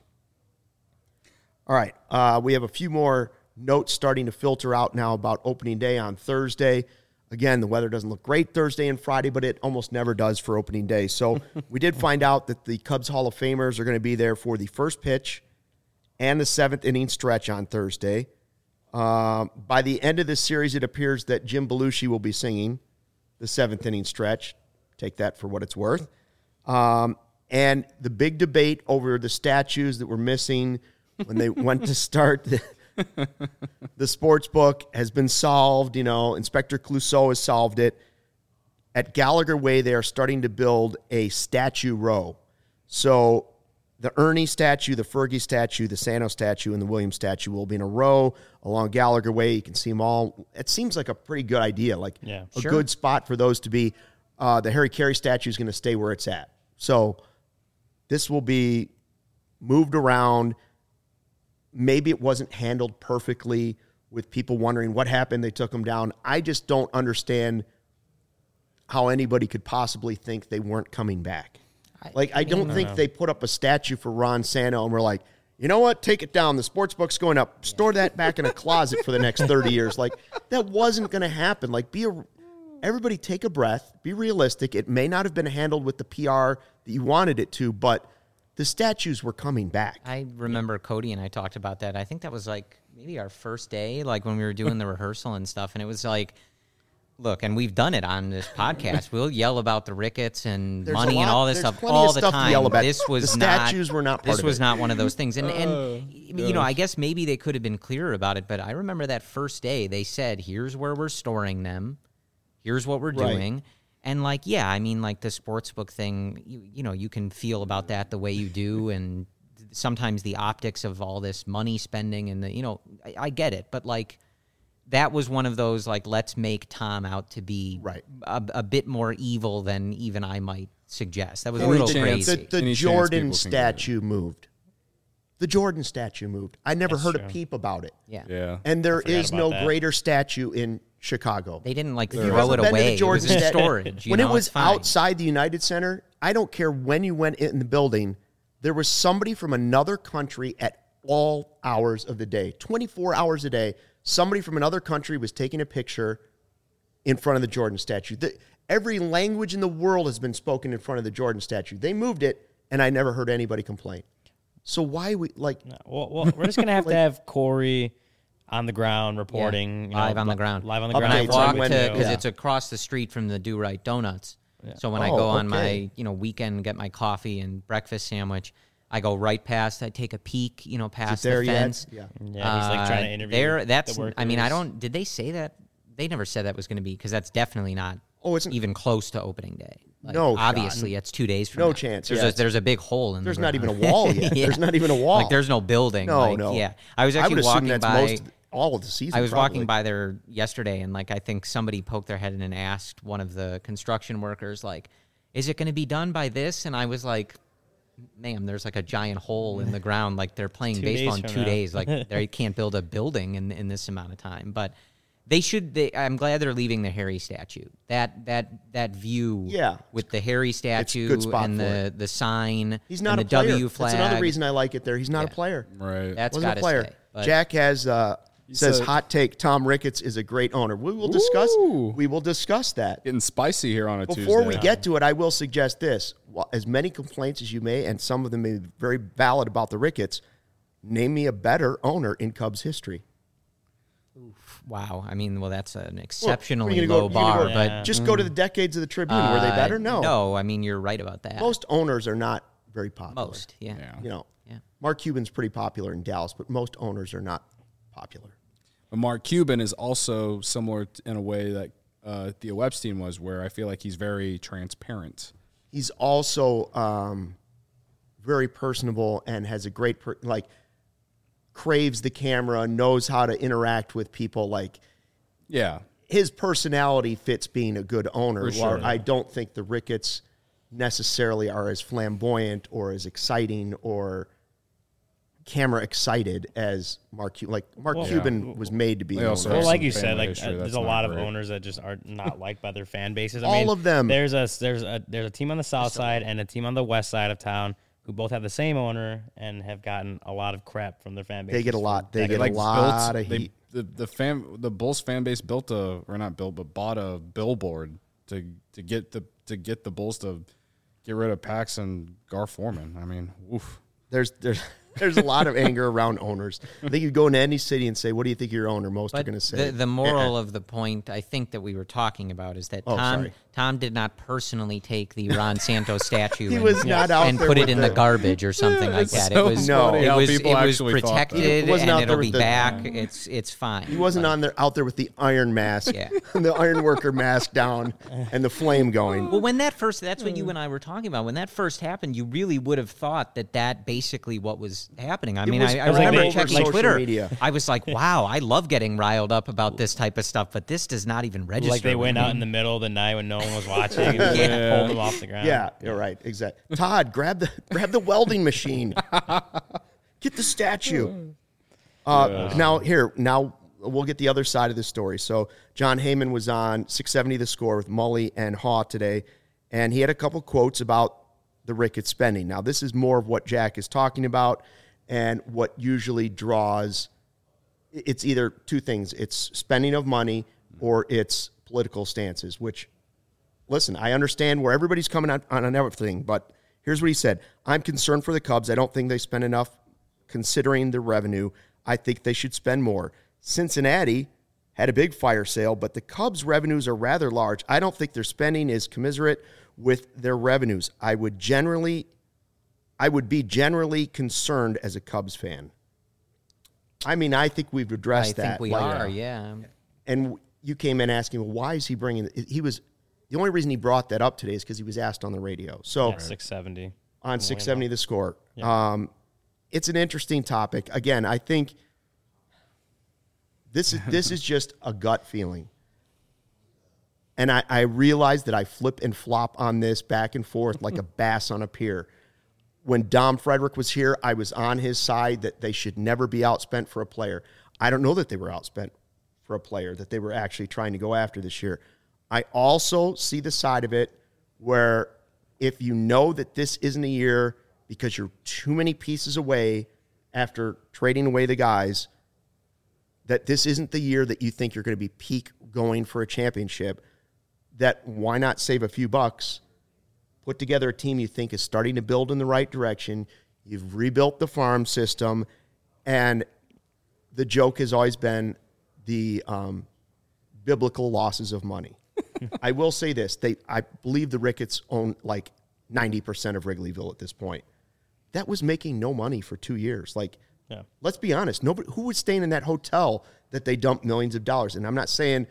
All right, uh, we have a few more notes starting to filter out now about opening day on Thursday. Again, the weather doesn't look great Thursday and Friday, but it almost never does for opening day. So we did find out that the Cubs Hall of Famers are going to be there for the first pitch and the seventh inning stretch on Thursday. Um, by the end of this series, it appears that Jim Belushi will be singing the seventh inning stretch. Take that for what it's worth. Um, and the big debate over the statues that were missing when they went to start the, the sports book has been solved. You know, Inspector Clouseau has solved it. At Gallagher Way, they are starting to build a statue row. So the Ernie statue, the Fergie statue, the Sano statue, and the Williams statue will be in a row along Gallagher Way. You can see them all. It seems like a pretty good idea, like Yeah. a Sure. good spot for those to be. Uh, the Harry Carey statue is going to stay where it's at. So this will be moved around. Maybe it wasn't handled perfectly with people wondering what happened. They took them down. I just don't understand how anybody could possibly think they weren't coming back. Like, I don't think they put up a statue for Ron Santo and we're like, you know what? Take it down. The sports book's going up. Store that back in a closet for the next thirty years. Like, that wasn't going to happen. Like, be a, everybody take a breath. Be realistic. It may not have been handled with the P R that you wanted it to, but the statues were coming back. I remember Cody and I talked about that. I think that was like maybe our first day, like when we were doing the rehearsal and stuff. And it was like, look, and we've done it on this podcast. We'll yell about the Ricketts and There's money a and lot- all this there's stuff plenty all of the stuff to time. yell about. This was The not, statues were not part This of was it. not one of those things. And, Uh, and you know, I guess maybe they could have been clearer about it. But I remember that first day they said, here's where we're storing them. Here's what we're Right. doing. And, like, yeah, I mean, like the sportsbook thing, you, you know, you can feel about that the way you do. And sometimes the optics of all this money spending and the, you know, I, I get it. But, like, that was one of those, like, let's make Tom out to be Right. a, a bit more evil than even I might suggest. That was a Any little chance- crazy. The, the Any chance Jordan people can get it. statue moved. The Jordan statue moved. I never That's heard true. a peep about it. yeah. Yeah. And there forgot is about no that. greater statue in Chicago. They didn't, like, If you've throw ever it been to the away. It was Jordan in sta- storage. You when know, it was it's fine. outside the United Center, I don't care when you went in the building, there was somebody from another country at all hours of the day, twenty-four hours a day. Somebody from another country was taking a picture in front of the Jordan statue. The, every language in the world has been spoken in front of the Jordan statue. They moved it, and I never heard anybody complain. So why we like? No, well, well, we're just gonna have to have Corey on the ground reporting, you know, live on the li- ground. live on the Updates ground. And I on walk when- to because yeah. it's across the street from the Do Right Donuts. So when I Oh, go on okay. my you know weekend, get my coffee and breakfast sandwich, I go right past. I take a peek, you know, past there the yet? fence. Yeah. Yeah, he's like trying to Uh, interview There, that's. the I mean, I workers. don't. Did they say that? They never said that was going to be because that's definitely not. Oh, it's even close to opening day. Like, No shot. obviously it's two days from No now. chance, There's, yeah, a, it's- there's a big hole in. There's the not even a ground. wall yet. Yeah. There's not even a wall. Like there's no building. No, like, no. Yeah, I was I actually would assume walking that's by. most all of the season. I was probably. walking by there yesterday, and like I think somebody poked their head in and asked one of the construction workers, like, "Is it going to be done by this?" And I was like, "Ma'am, there's like a giant hole in the ground. Like they're playing Two baseball days in from two now." days. Like they can't build a building in in this amount of time." But they should. They, I'm glad they're leaving the Harry statue. That that that view. Yeah. With the Harry statue good spot and for the it. the sign. He's not and a the player. W flag. That's another reason I like it there. He's not Yeah. a player. Right. That's Wasn't got a to player. stay. But Jack has uh, says said- hot take. Tom Ricketts is a great owner. We will discuss. Ooh. We will discuss that. Getting spicy here on a Before Tuesday. we get to it, I will suggest this: Well, as many complaints as you may, and some of them may be very valid about the Ricketts. Name me a better owner in Cubs history. wow. I mean, well, that's an Well, you're exceptionally gonna go- low you're gonna bar. go- But Yeah. Just go to the decades of the Tribune. Were they uh, better? No. No. I mean, you're right about that. Most owners are not very popular. Most. Yeah. Yeah. You know, Yeah. Mark Cuban's pretty popular in Dallas, but most owners are not popular. But Mark Cuban is also similar t- in a way that uh, Theo Epstein was, where I feel like he's very transparent. He's also um, very personable and has a great per- like craves the camera, knows how to interact with people. Like Yeah. his personality fits being a good owner. For sure. While I don't think the Ricketts necessarily are as flamboyant or as exciting or camera excited as Mark Cuban. Like Mark Well, Cuban yeah. was made to be They an also owner. Well, have like some you said, family like history uh, that's there's a not lot of great. owners that just are not liked by their fan bases. I All mean, of them. There's a there's a there's a team on the south side and a team on the west side of town who both have the same owner and have gotten a lot of crap from their fan base. They get a lot. They get a like lot built, of they, heat. the the fan the Bulls fan base built a or not built but bought a billboard to to get the to get the Bulls to get rid of Pax and Gar Forman. I mean, oof. There's there's There's a lot of anger around owners. I think you go into any city and say, what do you think your owner? Most But are going to say. the, the moral of the point, I think, that we were talking about is that Oh, Tom sorry. Tom did not personally take the Ron Santos statue He and, was not out and there put it with in the it. garbage or something like It's that. so it was No. funny it how was people it was actually thought that. protected He wasn't and out it'll there be with the- back. It's it's fine. He wasn't on there out there with the iron mask, Yeah. the iron worker mask down, and the flame going. Well, when that first, that's what you and I were talking about. When that first happened, you really would have thought that that basically what was happening. I mean, was I, I all remember over checking social Twitter. media. I was like, wow, I love getting riled up about this type of stuff, but this does not even register. Like they with went me. out in the middle of the night when no one was watching and just, Yeah. like, pulled them off the ground. Yeah, you're right. Exactly. Todd, grab the grab the welding machine. Get the statue. Uh, Now here, now we'll get the other side of the story. So John Heyman was on six seventy The Score with Mully and Haw today, and he had a couple quotes about the Ricketts spending. Now this is more of what Jack is talking about, and what usually draws. It's either two things: it's spending of money or it's political stances, which. Listen, I understand where everybody's coming on, on everything, but here's what he said. I'm concerned for the Cubs. I don't think they spend enough considering the revenue. I think they should spend more. Cincinnati had a big fire sale, but the Cubs' revenues are rather large. I don't think their spending is commensurate with their revenues. I would generally, I would be generally concerned as a Cubs fan. I mean, I think we've addressed I that. think we Like, are, yeah. And you came in asking, well, why is he bringing? He was the only reason he brought that up today is because he was asked on the radio. So Yeah, six seventy. on six seventy The Score, Yeah. um, it's an interesting topic. Again, I think this is this is just a gut feeling, and I, I realize that I flip and flop on this back and forth like a bass on a pier. When Dom Frederick was here, I was on his side that they should never be outspent for a player. I don't know that they were outspent for a player that they were actually trying to go after this year. I also see the side of it where if you know that this isn't a year because you're too many pieces away after trading away the guys, that this isn't the year that you think you're going to be peak going for a championship, that why not save a few bucks, put together a team you think is starting to build in the right direction, you've rebuilt the farm system, and the joke has always been the um, biblical losses of money. I will say this. They, I believe the Ricketts own like ninety percent of Wrigleyville at this point. That was making no money for two years. Like, Yeah. let's be honest. Nobody who was staying in that hotel that they dumped millions of dollars. And I'm not saying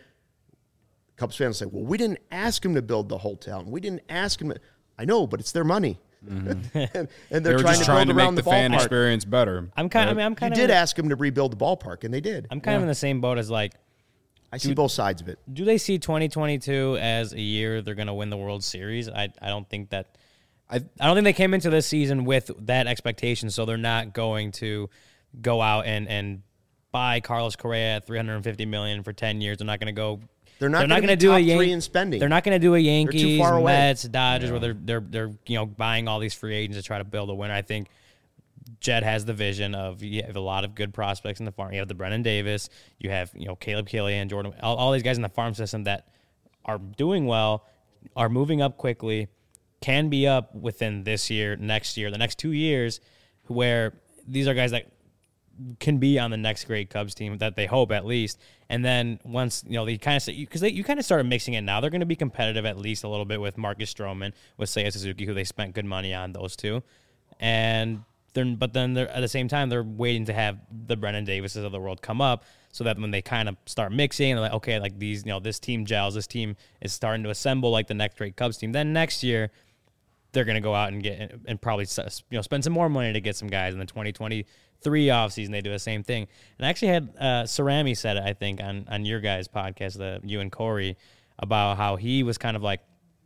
Cubs fans say, well, we didn't ask them to build the hotel. And we didn't ask them. To, I know, but it's their money. and, and they're They were trying just to trying build to around make the, the fan ballpark. experience better. I'm kind. I right? mean, I'm You kind of. did ask them to rebuild the ballpark, and they did. I'm kind of in the same boat as like. I see both sides of it. Do they see twenty twenty-two as a year they're going to win the World Series? I I don't think that. I I don't think they came into this season with that expectation, so they're not going to go out and and buy Carlos Correa at three hundred fifty million dollars for ten years. They're not going to go. They're not They're not going going to to do a top Yan- three in spending. They're not going to do a Yankees, far away. Mets, Dodgers, where they're they're they're you know buying all these free agents to try to build a winner. I think Jed has the vision of you have a lot of good prospects in the farm. You have the Brennan Davis, you have you know Caleb Killian, Jordan, all, all these guys in the farm system that are doing well, are moving up quickly, can be up within this year, next year, the next two years, where these are guys that can be on the next great Cubs team that they hope at least. And then once, you know, they kind of, because they you kind of started mixing it now, they're going to be competitive at least a little bit with Marcus Stroman, with Seiya Suzuki, who they spent good money on, those two. And then, but then they're, at the same time, they're waiting to have the Brennan Davises of the world come up so that when they kind of start mixing, they're like, okay, like these, you know, this team gels, this team is starting to assemble like the next great Cubs team. Then next year, they're going to go out and get and probably you know spend some more money to get some guys. In the twenty twenty-three offseason, they do the same thing. And I actually had uh, Cerami said it, I think, on, on your guys' podcast, the you and Corey, about how he was kind of like,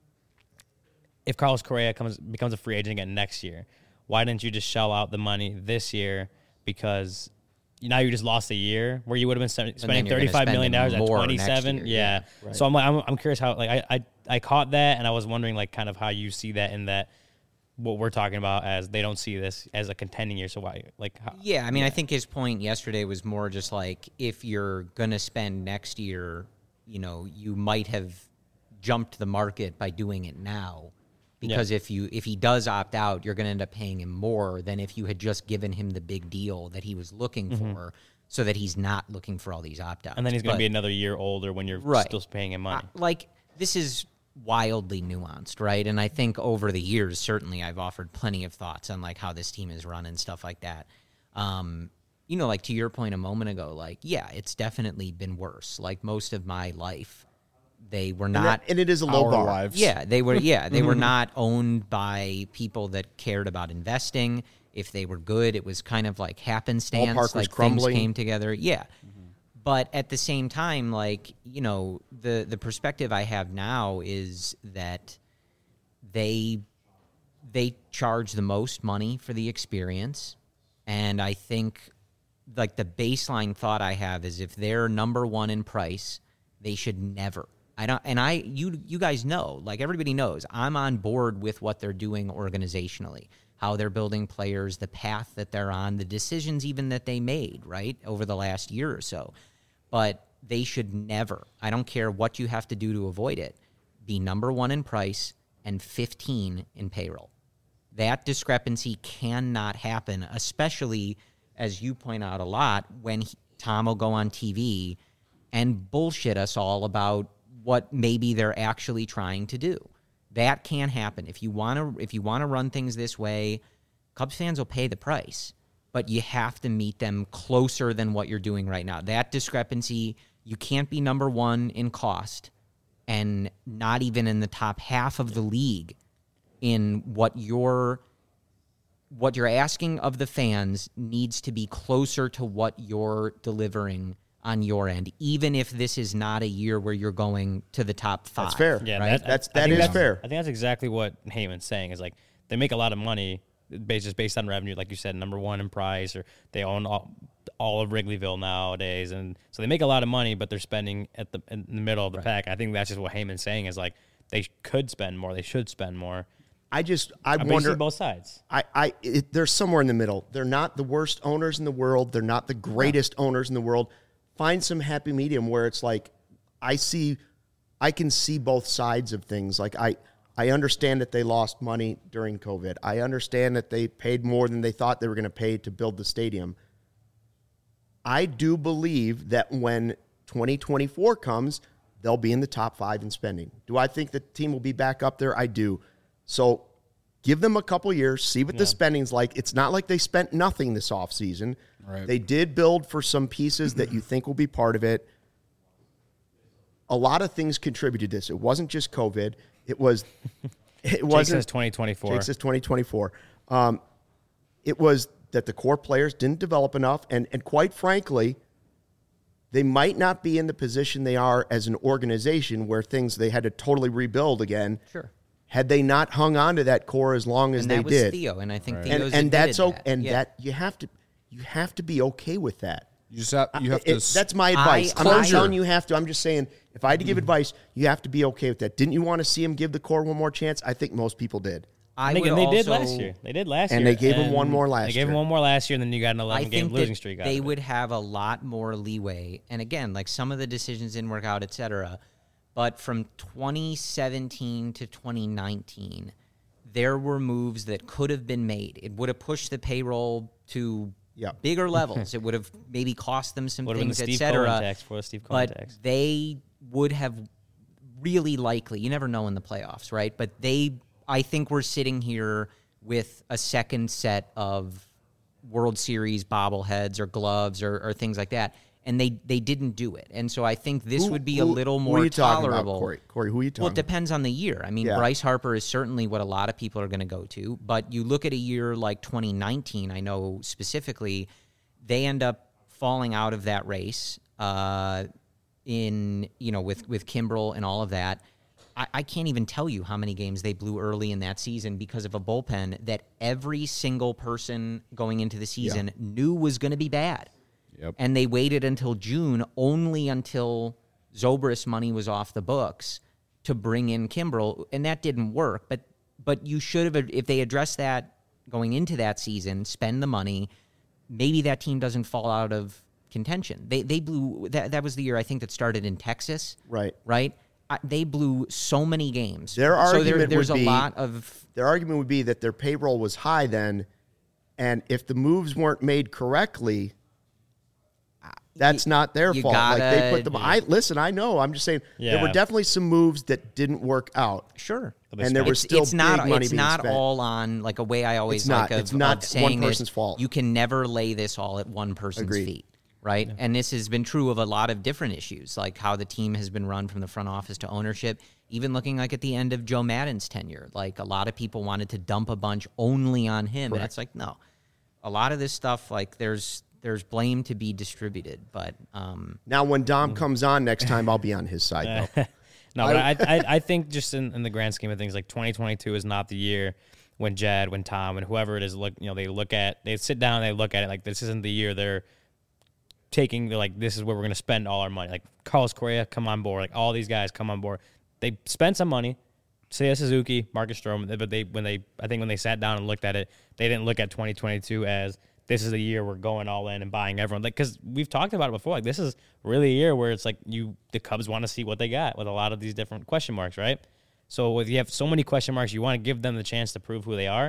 if Carlos Correa comes becomes a free agent again next year, why didn't you just shell out the money this year? Because now you just lost a year where you would have been spending you're gonna thirty-five million dollars spend at more next twenty-seven. year, Yeah. yeah, So I'm like, I'm, I'm curious how, like, I, I, I caught that, and I was wondering, like, kind of how you see that in that what we're talking about as they don't see this as a contending year. So why, like, how, Yeah, I mean, I think his point yesterday was more just like, if you're going to spend next year, you know, you might have jumped the market by doing it now because yeah. if you if he does opt out, you're going to end up paying him more than if you had just given him the big deal that he was looking mm-hmm. for, so that he's not looking for all these opt outs. And then he's going to be another year older when you're right. still paying him money. Uh, like this is wildly nuanced, right? And I think over the years, certainly, I've offered plenty of thoughts on like how this team is run and stuff like that. Um, you know, like to your point a moment ago, like yeah, it's definitely been worse. Like most of my life. They were not, and, that, and it is a low bar. Lives. Yeah, they were. Yeah, they were not owned by people that cared about investing. If they were good, it was kind of like happenstance. Ballpark like was crumbling. Things came together. Yeah, mm-hmm. But at the same time, like you know, the the perspective I have now is that they they charge the most money for the experience, and I think like the baseline thought I have is if they're number one in price, they should never. I don't, and I, you, you guys know, like everybody knows, I'm on board with what they're doing organizationally, how they're building players, the path that they're on, the decisions even that they made, right, over the last year or so. But they should never, I don't care what you have to do to avoid it, be number one in price and fifteen in payroll. That discrepancy cannot happen, especially, as you point out a lot, when he, Tom will go on T V and bullshit us all about what maybe they're actually trying to do. That can't happen. If you want to if you want to run things this way, Cubs fans will pay the price, but you have to meet them closer than what you're doing right now. That discrepancy, you can't be number one in cost and not even in the top half of the league in what you're what you're asking of the fans needs to be closer to what you're delivering on your end, even if this is not a year where you're going to the top five. That's fair. Yeah, right? that, that's I that is that's, fair. I think that's exactly what Heyman's saying. Is like they make a lot of money based just based on revenue, like you said, number one in price, or they own all, all of Wrigleyville nowadays, and so they make a lot of money, but they're spending at the in the middle of the right. pack. I think that's just what Heyman's saying is like they could spend more, they should spend more. I just I I'm wonder both sides. I I it, they're somewhere in the middle. They're not the worst owners in the world. They're not the greatest no. owners in the world. Find some happy medium where it's like I see, I can see both sides of things. Like I, I understand that they lost money during COVID. I understand that they paid more than they thought they were going to pay to build the stadium. I do believe that when twenty twenty-four comes, they'll be in the top five in spending. Do I think the team will be back up there? I do. So give them a couple years, see what yeah. the spending's like. It's not like they spent nothing this offseason. Right. They did build for some pieces that you think will be part of it. A lot of things contributed to this. It wasn't just COVID. It was. It wasn't. Jake says twenty twenty-four. Jake says twenty twenty-four. Um, it was that the core players didn't develop enough, and and quite frankly, they might not be in the position they are as an organization where things they had to totally rebuild again. Sure. Had they not hung on to that core as long as and they that was did, Theo, and I think right. Theo's and, and that's okay. That. And yeah. that you have to, you have to be okay with that. You just have, you have it, to. That's my advice. I, I'm not I, telling you have to. I'm just saying, if I had to give mm. advice, you have to be okay with that. Didn't you want to see him give the core one more chance? I think most people did. I and they, would and they also, did last year. They did last and year. They gave and him one more last they year. They gave him one more last year, and then you got an I eleven game think losing streak. They would have a lot more leeway. And again, like some of the decisions didn't work out, et cetera. But from twenty seventeen to twenty nineteen, there were moves that could have been made. It would have pushed the payroll to yep. bigger levels. It would have maybe cost them some would things, et cetera. But tax. They would have really likely, you never know in the playoffs, right? But they, I think we're sitting here with a second set of World Series bobbleheads or gloves or, or things like that. And they, they didn't do it. And so I think this who, would be who, a little more who are you tolerable. Talking about, Corey? Corey, who are you talking Well, it depends on the year. I mean, yeah. Bryce Harper is certainly what a lot of people are going to go to. But you look at a year like twenty nineteen, I know specifically, they end up falling out of that race uh, in, you know, with, with Kimbrel and all of that. I, I can't even tell you how many games they blew early in that season because of a bullpen that every single person going into the season yeah. knew was going to be bad. Yep. And they waited until June, only until Zobrist money was off the books, to bring in Kimbrel, and that didn't work. But but you should have, if they addressed that going into that season, spend the money, maybe that team doesn't fall out of contention. They they blew, that, that was the year I think that started in Texas. Right. Right? I, they blew so many games. Their so argument there, there's would a be, lot of their argument would be that their payroll was high then, and if the moves weren't made correctly, that's you, not their you fault. Gotta, like they put them. I listen. I know. I'm just saying Yeah. there were definitely some moves that didn't work out. Sure. And there was it's, still it's not, big money It's being not spent. all on like a way I always It's not. like of, It's not of saying one person's this, fault. You can never lay this all at one person's Agreed. feet, right? Yeah. And this has been true of a lot of different issues, like how the team has been run from the front office to ownership. Even looking like at the end of Joe Madden's tenure, like a lot of people wanted to dump a bunch only on him, Correct. and it's like no. A lot of this stuff, like there's there's blame to be distributed, but um, Now, when Dom comes on next time, I'll be on his side. Though. No, but I, I, I think just in, in the grand scheme of things, like twenty twenty-two is not the year when Jed, when Tom, and whoever it is, look, you know, they look at, they sit down, they look at it like this isn't the year they're taking, they're like, this is where we're going to spend all our money. Like Carlos Correa, come on board. Like all these guys come on board. They spent some money. Seiya Suzuki, Marcus Stroman, but they, when they, I think when they sat down and looked at it, they didn't look at twenty twenty-two as this is the year we're going all in and buying everyone. Like, because we've talked about it before. Like, this is really a year where it's like you, the Cubs want to see what they got with a lot of these different question marks, right? So if you have so many question marks, you want to give them the chance to prove who they are,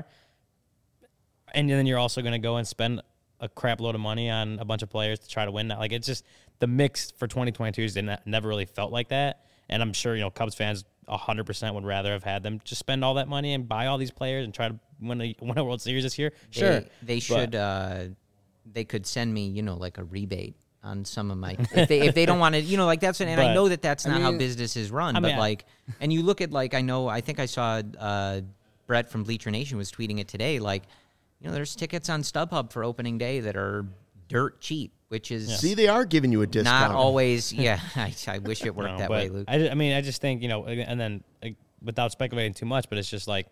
and then you're also going to go and spend a crap load of money on a bunch of players to try to win that. Like, it's just the mix for twenty twenty-two is never really felt like that. And I'm sure, you know, Cubs fans one hundred percent would rather have had them just spend all that money and buy all these players and try to win a, win a World Series this year. Sure. They, they should, but, uh, they could send me, you know, like a rebate on some of my, if they, if they don't want to, you know, like that's, and But, I know that that's I not how mean- business is run, I but mean, I- like, and you look at like, I know, I think I saw, uh, Brett from Bleacher Nation was tweeting it today. Like, you know, there's tickets on StubHub for opening day that are dirt cheap, which is See, they are giving you a discount. not always. Yeah. I, I wish it worked No, that but way, Luke. I, ju- I mean, I just think, you know, and then like, without speculating too much, but it's just like,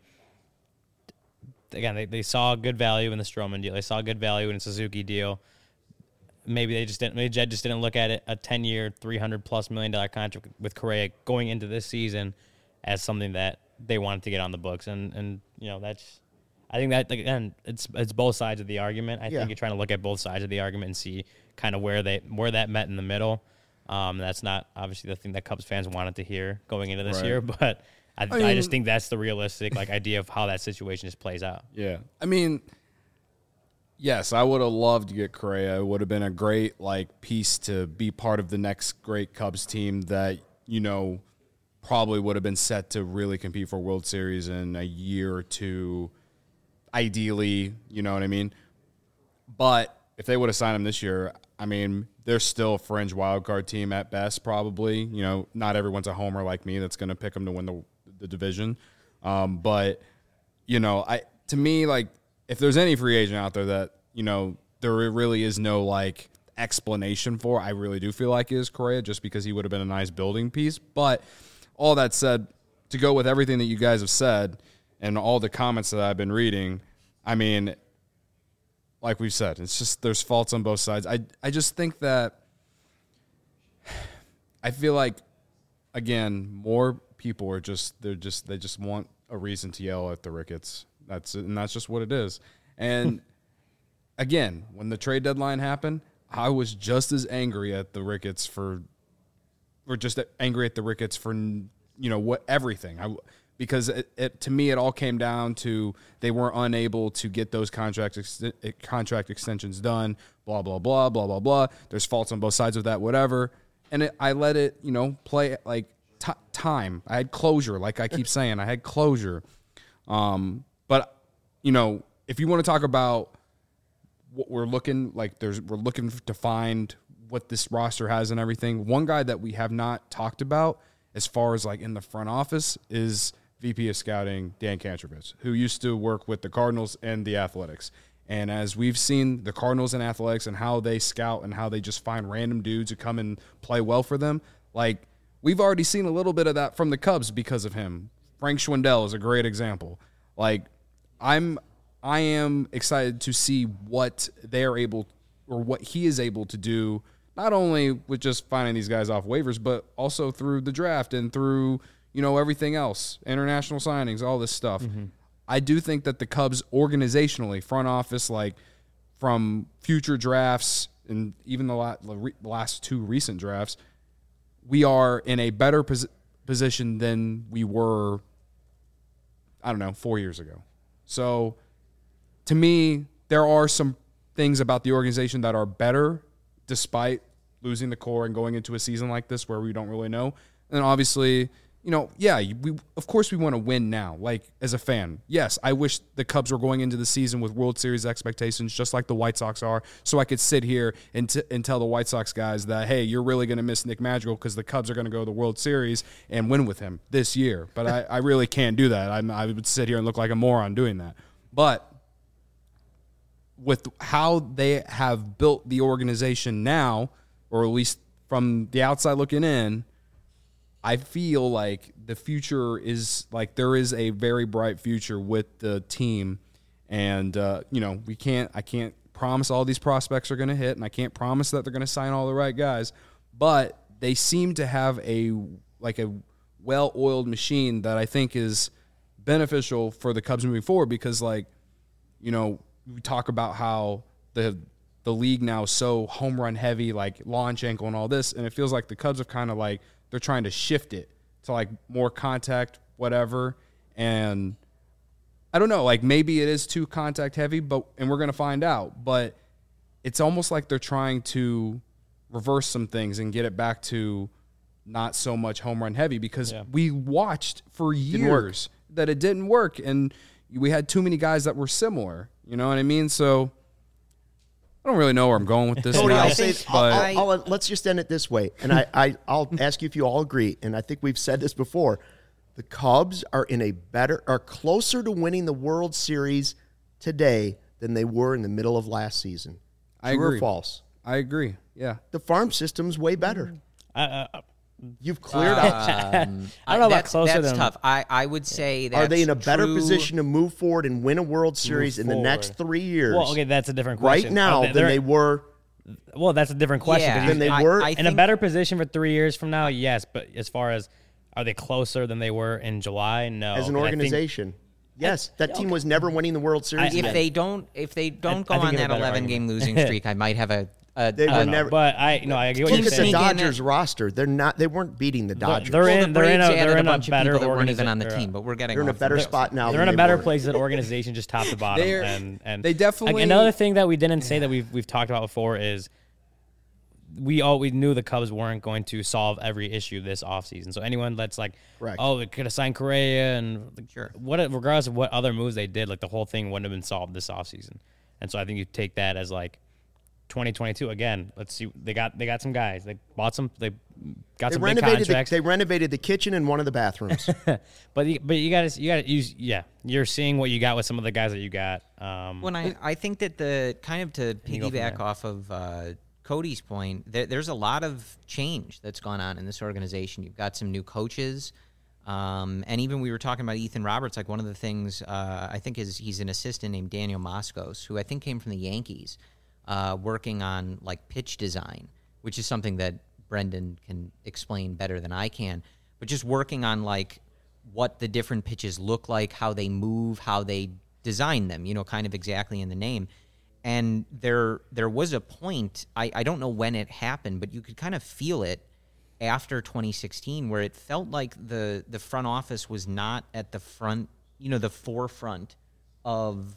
again, they, they saw good value in the Stroman deal. They saw good value in the Suzuki deal. Maybe they just didn't, maybe Jed just didn't look at it, a ten-year, three hundred plus million dollar contract with Correa going into this season as something that they wanted to get on the books. And, and you know, that's, I think that, again, it's it's both sides of the argument. I Yeah. think you're trying to look at both sides of the argument and see kind of where they where that met in the middle. Um, that's not obviously the thing that Cubs fans wanted to hear going into this Right. year, but I, I, mean- just think that's the realistic like idea of how that situation just plays out. Yeah. I mean, yes, I would have loved to get Correa. It would have been a great like piece to be part of the next great Cubs team that, you know, probably would have been set to really compete for World Series in a year or two, ideally, you know what I mean? But if they would have signed him this year, I mean, they're still a fringe wildcard team at best, probably. You know, not everyone's a homer like me that's going to pick them to win the, the division. Um, but, you know, I to me, like, if there's any free agent out there that, you know, there really is no, like, explanation for, I really do feel like is Correa, just because he would have been a nice building piece. But all that said, to go with everything that you guys have said and all the comments that I've been reading, I mean, like we've said, it's just there's faults on both sides. I I just think that I feel like, again, more people are just they're just they just want a reason to yell at the Ricketts. That's and that's just what it is. And again, when the trade deadline happened, I was just as angry at the Ricketts for, or just angry at the Ricketts for, you know, what everything. I because it, it to me it all came down to they weren't unable to get those contract ex- contract extensions done. Blah blah blah blah blah blah. There's faults on both sides of that. Whatever. And it, I let it, you know, play like t- time. I had closure, like I keep saying. I had closure. Um, but you know, if you want to talk about what we're looking like, there's we're looking to find what this roster has and everything. One guy that we have not talked about as far as like in the front office is V P of Scouting Dan Kantrovitz, who used to work with the Cardinals and the Athletics. And as we've seen the Cardinals and Athletics and how they scout and how they just find random dudes who come and play well for them, like we've already seen a little bit of that from the Cubs because of him. Frank Schwindel is a great example. Like I'm, I am excited to see what they're able or what he is able to do, not only with just finding these guys off waivers, but also through the draft and through, you know, everything else, international signings, all this stuff. Mm-hmm. I do think that the Cubs organizationally, front office, like from future drafts and even the last two recent drafts, we are in a better position. position than we were, I don't know, four years ago. So to me, there are some things about the organization that are better despite losing the core and going into a season like this where we don't really know. And obviously, you know, yeah, we of course we want to win now. Like, as a fan, yes, I wish the Cubs were going into the season with World Series expectations just like the White Sox are, so I could sit here and, t- and tell the White Sox guys that, hey, you're really going to miss Nick Madrigal because the Cubs are going to go to the World Series and win with him this year. But I, I really can't do that. I'm, I would sit here and look like a moron doing that. But with how they have built the organization now, or at least from the outside looking in, I feel like the future is like there is a very bright future with the team, and uh, you know we can't. I can't promise all these prospects are going to hit, and I can't promise that they're going to sign all the right guys, but they seem to have a like a well-oiled machine that I think is beneficial for the Cubs moving forward. Because like you know we talk about how the the league now is so home run heavy, like launch ankle and all this, and it feels like the Cubs have kind of like. They're trying to shift it to like more contact, whatever. And I don't know, like maybe it is too contact heavy, but and we're going to find out. But it's almost like they're trying to reverse some things and get it back to not so much home run heavy because yeah. we watched for years that it didn't work. And we had too many guys that were similar. You know what I mean? So I don't really know where I'm going with this. Cody, now, I'll say, but I'll, I'll, let's just end it this way. And I, I, I'll ask you if you all agree, and I think we've said this before. The Cubs are in a better, are closer to winning the World Series today than they were in the middle of last season. I True agree. or false? I agree, yeah. The farm system's way better. Uh, uh, You've cleared out. Um, I don't know about that's, closer that's than- tough. I, I would say that Are they in a better position to move forward and win a World Series in the forward. next three years well, okay, that's a different right question. now Are than they're- they were? Well, that's a different question. Yeah, 'cause Than they I- were? I in a think- better position for three years from now, yes. But as far as are they closer than they were in July? No. As an And I think- organization, yes. That team was never winning the World Series. if again. they don't if they don't I go think on you have that a better eleven game argument. losing streak, I might have a. a They a- were I don't know, never- but I no, I get what Look you're at the saying. sneak in Dodgers it. roster. They're not. They weren't beating the Dodgers. They're well, in. the They're in Braves a. added They're in a a bunch of better people that weren't even organiza- on the or, uh, team, but we're getting They're in a off better the- spot now. They're than in a they better were. place as an organization, just top to bottom. They're- and and they definitely- Like, another thing that we didn't say that we've we've talked about before is we all we knew the Cubs weren't going to solve every issue this offseason. So anyone that's like, Correct. oh, they could have signed Correa and like, Sure. what regardless of what other moves they did, like the whole thing wouldn't have been solved this offseason. And so I think you take that as like twenty twenty-two again. Let's see. They got they got some guys. They bought some. They got They some big renovated. The, contracts. they renovated the kitchen and one of the bathrooms. but you, but you got to you got to use yeah. You're seeing what you got with some of the guys that you got. Um, When I, I think that the kind of to you go from piggyback there. off of uh, Cody's point, there, there's a lot of change that's gone on in this organization. You've got some new coaches, um, and even we were talking about Ethan Roberts. Like one of the things uh, I think is he's an assistant named Daniel Moscos, who I think came from the Yankees, uh, working on like pitch design, which is something that Brendan can explain better than I can. But just working on like what the different pitches look like, how they move, how they design them, you know, kind of exactly in the name. And there there was a point, I, I don't know when it happened, but you could kind of feel it after twenty sixteen where it felt like the, the front office was not at the front, you know, the forefront of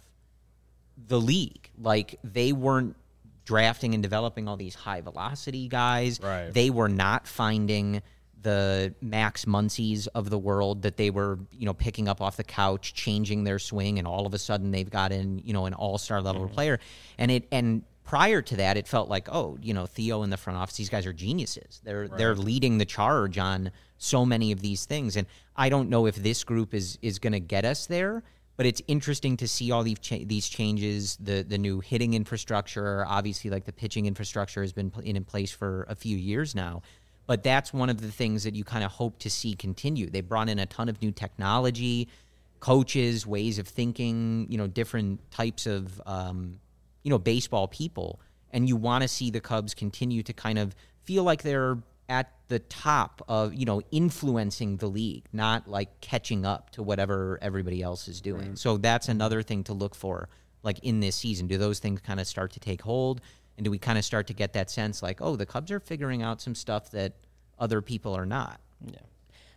the league. Like they weren't drafting and developing all these high velocity guys. Right. They were not finding the Max Muncies of the world that they were, you know, picking up off the couch, changing their swing, and all of a sudden they've got in, you know, an all-star level Mm-hmm. player. And it and prior to that, it felt like, oh, you know, Theo in the front office, these guys are geniuses. They're right. they're leading the charge on so many of these things. And I don't know if this group is is going to get us there, but it's interesting to see all these cha- these changes, the the new hitting infrastructure. Obviously, like the pitching infrastructure has been in, in place for a few years now. But that's one of the things that you kind of hope to see continue. They brought in a ton of new technology, coaches, ways of thinking, you know, different types of, um, you know, baseball people. And you want to see the Cubs continue to kind of feel like they're at the top of, you know, influencing the league, not like catching up to whatever everybody else is doing. Right. So that's another thing to look for, like in this season. Do those things kind of start to take hold? And do we kind of start to get that sense like, oh, the Cubs are figuring out some stuff that other people are not? Yeah.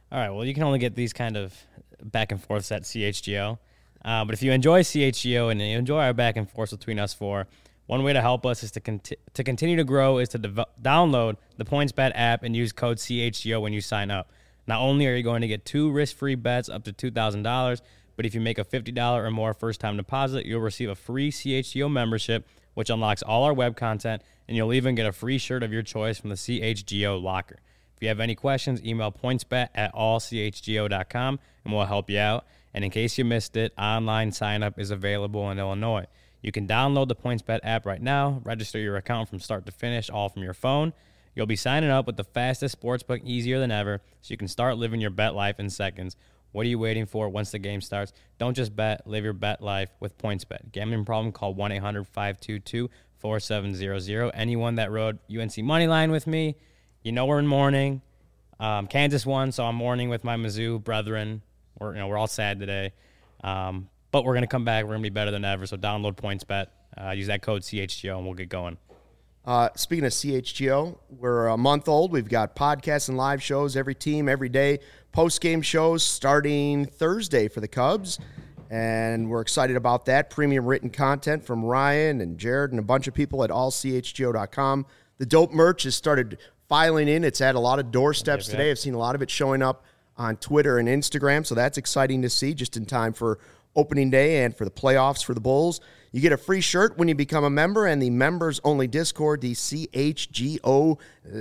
All right. Well, you can only get these kind of back and forths at C H G O. Uh, but if you enjoy C H G O and you enjoy our back and forths between us four, one way to help us is to conti- to continue to grow is to dev- download the PointsBet app and use code C H G O when you sign up. Not only are you going to get two risk-free bets up to two thousand dollars, but if you make a fifty dollars or more first-time deposit, you'll receive a free C H G O membership, which unlocks all our web content, and you'll even get a free shirt of your choice from the C H G O locker. If you have any questions, email pointsbet at all c h g o dot com, and we'll help you out. And in case you missed it, online sign-up is available in Illinois. You can download the PointsBet app right now, register your account from start to finish, all from your phone. You'll be signing up with the fastest sportsbook easier than ever, so you can start living your bet life in seconds. What are you waiting for once the game starts? Don't just bet, live your bet life with PointsBet. Gambling problem, call one eight hundred five two two four seven zero zero. Anyone that rode U N C Moneyline with me, you know we're in mourning. Um, Kansas won, so I'm mourning with my Mizzou brethren. We're, you know, we're all sad today. Um, but we're going to come back. We're going to be better than ever. So download PointsBet. Uh, use that code C H G O, and we'll get going. Uh, speaking of C H G O, we're a month old. We've got podcasts and live shows every team, every day. Post-game shows starting Thursday for the Cubs, and we're excited about that. Premium written content from Ryan and Jared and a bunch of people at all c h g o dot com. The dope merch has started filing in. It's at a lot of doorsteps Yep, yep. today. I've seen a lot of it showing up on Twitter and Instagram, so that's exciting to see just in time for opening day and for the playoffs for the Bulls. You get a free shirt when you become a member and the members-only Discord, the C H G O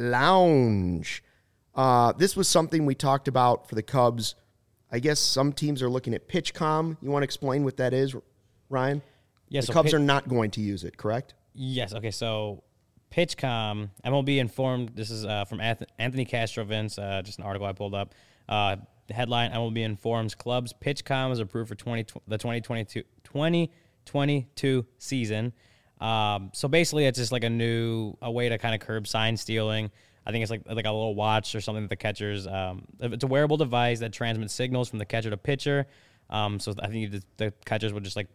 Lounge. Uh, this was something we talked about for the Cubs. I guess some teams are looking at PitchCom. You want to explain what that is, Ryan? Yeah, the so Cubs Pit- are not going to use it, correct? Yes. Okay. So, PitchCom, M L B informed. This is uh, from Anth- Anthony Castrovince, uh, just an article I pulled up. Uh, the headline: M L B informs clubs PitchCom is approved for twenty the twenty twenty-two twenty twenty-two season. Um, so basically, it's just like a new a way to kind of curb sign stealing. I think it's like like a little watch or something that the catchers. Um, it's a wearable device that transmits signals from the catcher to pitcher. Um, so I think the, the catchers would just like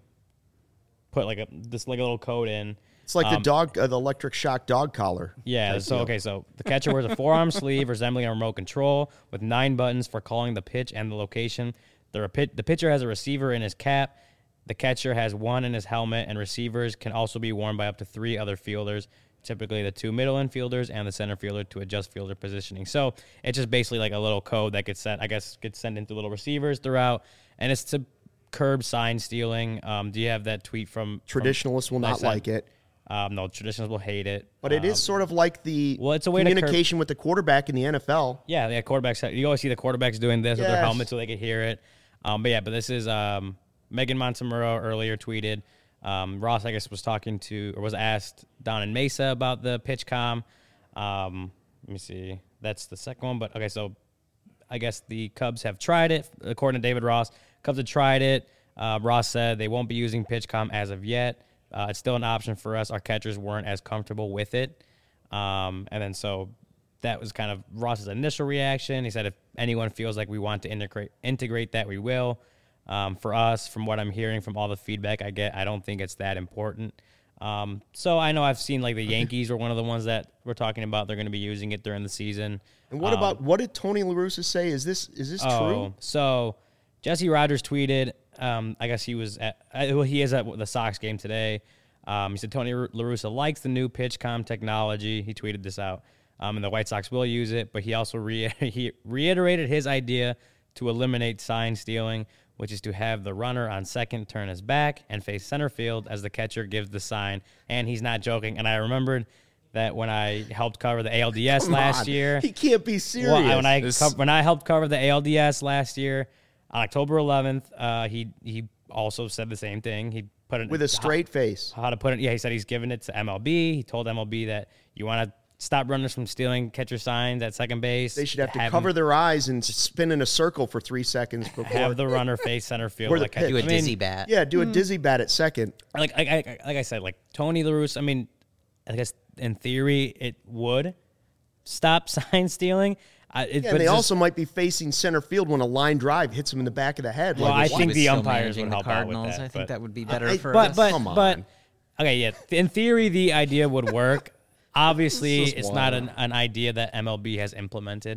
put like a this like a little code in. It's like Um, the dog, uh, the electric shock dog collar. Yeah. type So deal. okay. So the catcher wears a forearm sleeve resembling a remote control with nine buttons for calling the pitch and the location. The repi- the pitcher has a receiver in his cap. The catcher has one in his helmet, and receivers can also be worn by up to three other fielders, typically the two middle infielders and the center fielder, to adjust fielder positioning. So it's just basically like a little code that gets sent, I guess, gets sent into little receivers throughout, and it's to curb sign stealing. Um, do you have that tweet from Traditionalists will that I not sent? like it. Um, no, traditionalists will hate it. But it Um, is sort of like the well, it's a way to curb- communication with the quarterback in the N F L. Yeah, yeah, quarterbacks. You always see the quarterbacks doing this with their Yes. helmet so they can hear it. Um, but yeah, but this is um, Megan Montemurro earlier tweeted. Um, Ross, I guess, was talking to or was asked down in Mesa about the PitchCom. Um, let me see. That's the second one. But okay, so I guess the Cubs have tried it. According to David Ross, Cubs have tried it. Uh, Ross said they won't be using PitchCom as of yet. Uh, it's still an option for us. Our catchers weren't as comfortable with it. Um, and then so that was kind of Ross's initial reaction. He said if anyone feels like we want to integrate integrate that, we will. Um, for us, from what I'm hearing from all the feedback I get, I don't think it's that important. Um, so I know I've seen like the Yankees were one of the ones that we're talking about. They're going to be using it during the season. And what Um, about what did Tony La Russa say? Is this is this Oh, true? so Jesse Rogers tweeted. Um, I guess he was at. Uh, well, he is at the Sox game today. Um, he said Tony La Russa likes the new PitchCom technology. He tweeted this out, um, and the White Sox will use it. But he also re- he reiterated his idea to eliminate sign stealing, which is to have the runner on second turn his back and face center field as the catcher gives the sign. And he's not joking. And I remembered that when I helped cover the A L D S Come last on. year. He can't be serious. Well, I- when I This- co- when I helped cover the A L D S last year on October eleventh, uh, he he also said the same thing. He put it with a straight face. how, how to put it. Yeah, he said he's giving it to M L B. He told M L B that you want to stop runners from stealing catcher signs at second base. They should have to him- cover their eyes and spin in a circle for three seconds before. have the runner face center field. Where the like catcher- Do a pitch. I mean, dizzy bat. yeah, do a dizzy bat at second. like I, I, like I said, like Tony La Russa, I mean, I guess in theory it would stop sign stealing. I, it, Yeah, but and they just- also might be facing center field when a line drive hits him in the back of the head. Well, like I a- think With the still umpires managing would the help out with Cardinals, that, I think but- that would be better I- for but us. but Come on. but okay, yeah. In theory, the idea would work. Obviously, This is it's not wild. an, an idea that M L B has implemented.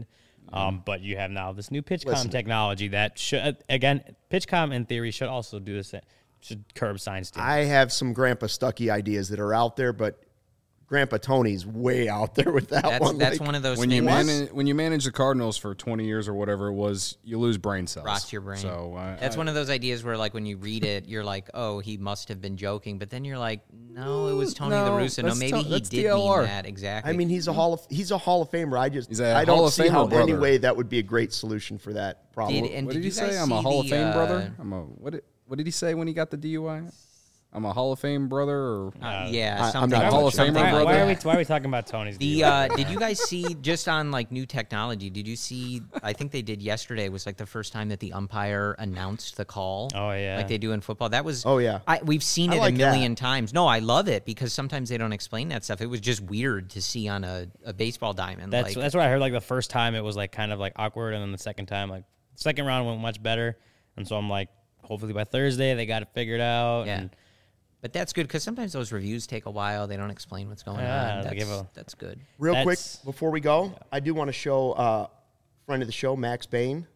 Um, but you have now this new PitchCom Listen. technology that should, again, PitchCom in theory should also do this. Should curb sign stealing. I have some Grandpa Stuckey ideas that are out there, but Grandpa Tony's way out there with that That's one. that's Like, one of those When things. you manage when you manage the Cardinals for twenty years or whatever it was, you lose brain cells. rots your brain. So I, That's I, one of those ideas where, like, when you read it, you're like, "Oh, he must have been joking," but then you're like, "No, it was Tony No, La Russa. No, that's maybe to- he that's did D L R. mean that exactly." I mean, he's a hall of he's a Hall of Famer. I just He's a I don't Hall of see how Famer any brother. way that would be a great solution for that problem. Did- and What did did he you guys say? I'm a see Hall of the, Fame uh, brother. I'm a what? Did, what did he say when he got the D U I? I'm a Hall of Fame brother. Or Uh, yeah, I- I'm something. not Hall of something Famer why, like why are we that. why are we talking about Tony's? The deal? uh, did you guys see just on like new technology? Did you see? I think they did yesterday. Was like the first time that the umpire announced the call. Oh, yeah. like they do in football. That was. Oh, yeah. I, we've seen I it like a million that. times. No, I love it because sometimes they don't explain that stuff. It was just weird to see on a, a baseball diamond. That's like, that's what I heard. Like the first time, it was like kind of like awkward, and then the second time, like second round went much better. And so I'm like, hopefully by Thursday they got it figured out. Yeah. And But that's good because sometimes those reviews take a while. They don't explain what's going Yeah, on. they That's, give a- that's good. Real quick That's- before we go, I do want to show uh, friend of the show, Max Bain,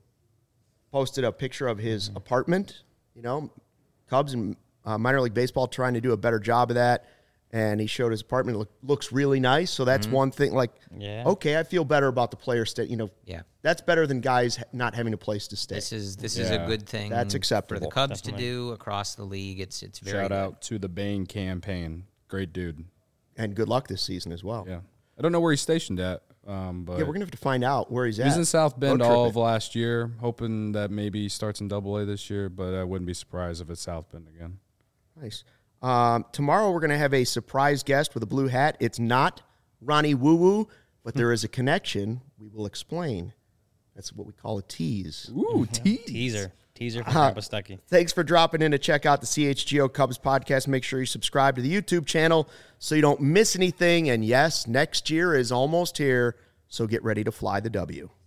posted a picture of his Mm-hmm. apartment. You know, Cubs and uh, minor league baseball trying to do a better job of that, and he showed his apartment. It look, looks really nice. So that's one thing. Like, Mm-hmm. Yeah. okay, I feel better about the player stay. You know, Yeah. that's better than guys ha- not having a place to stay. This is this is a Yeah. good thing. That's for acceptable. the Cubs Definitely. to do across the league. It's it's very shout good. out to the Bain campaign. Great dude. And good luck this season as well. Yeah. I don't know where he's stationed at, um, but Yeah, we're gonna have to find out where he's he at. was in South Bend Road all tripping. of last year, hoping that maybe he starts in Double A this year. But I wouldn't be surprised if it's South Bend again. Nice. Um, tomorrow we're going to have a surprise guest with a blue hat. It's not Ronnie Woo Woo, but there is a connection. We will explain. That's what we call a tease. Ooh, tease. teaser, teaser Uh-huh. for Grandpa Stuckey. Thanks for dropping in to check out the C H G O Cubs podcast. Make sure you subscribe to the YouTube channel so you don't miss anything. And yes, next year is almost here, so get ready to fly the W.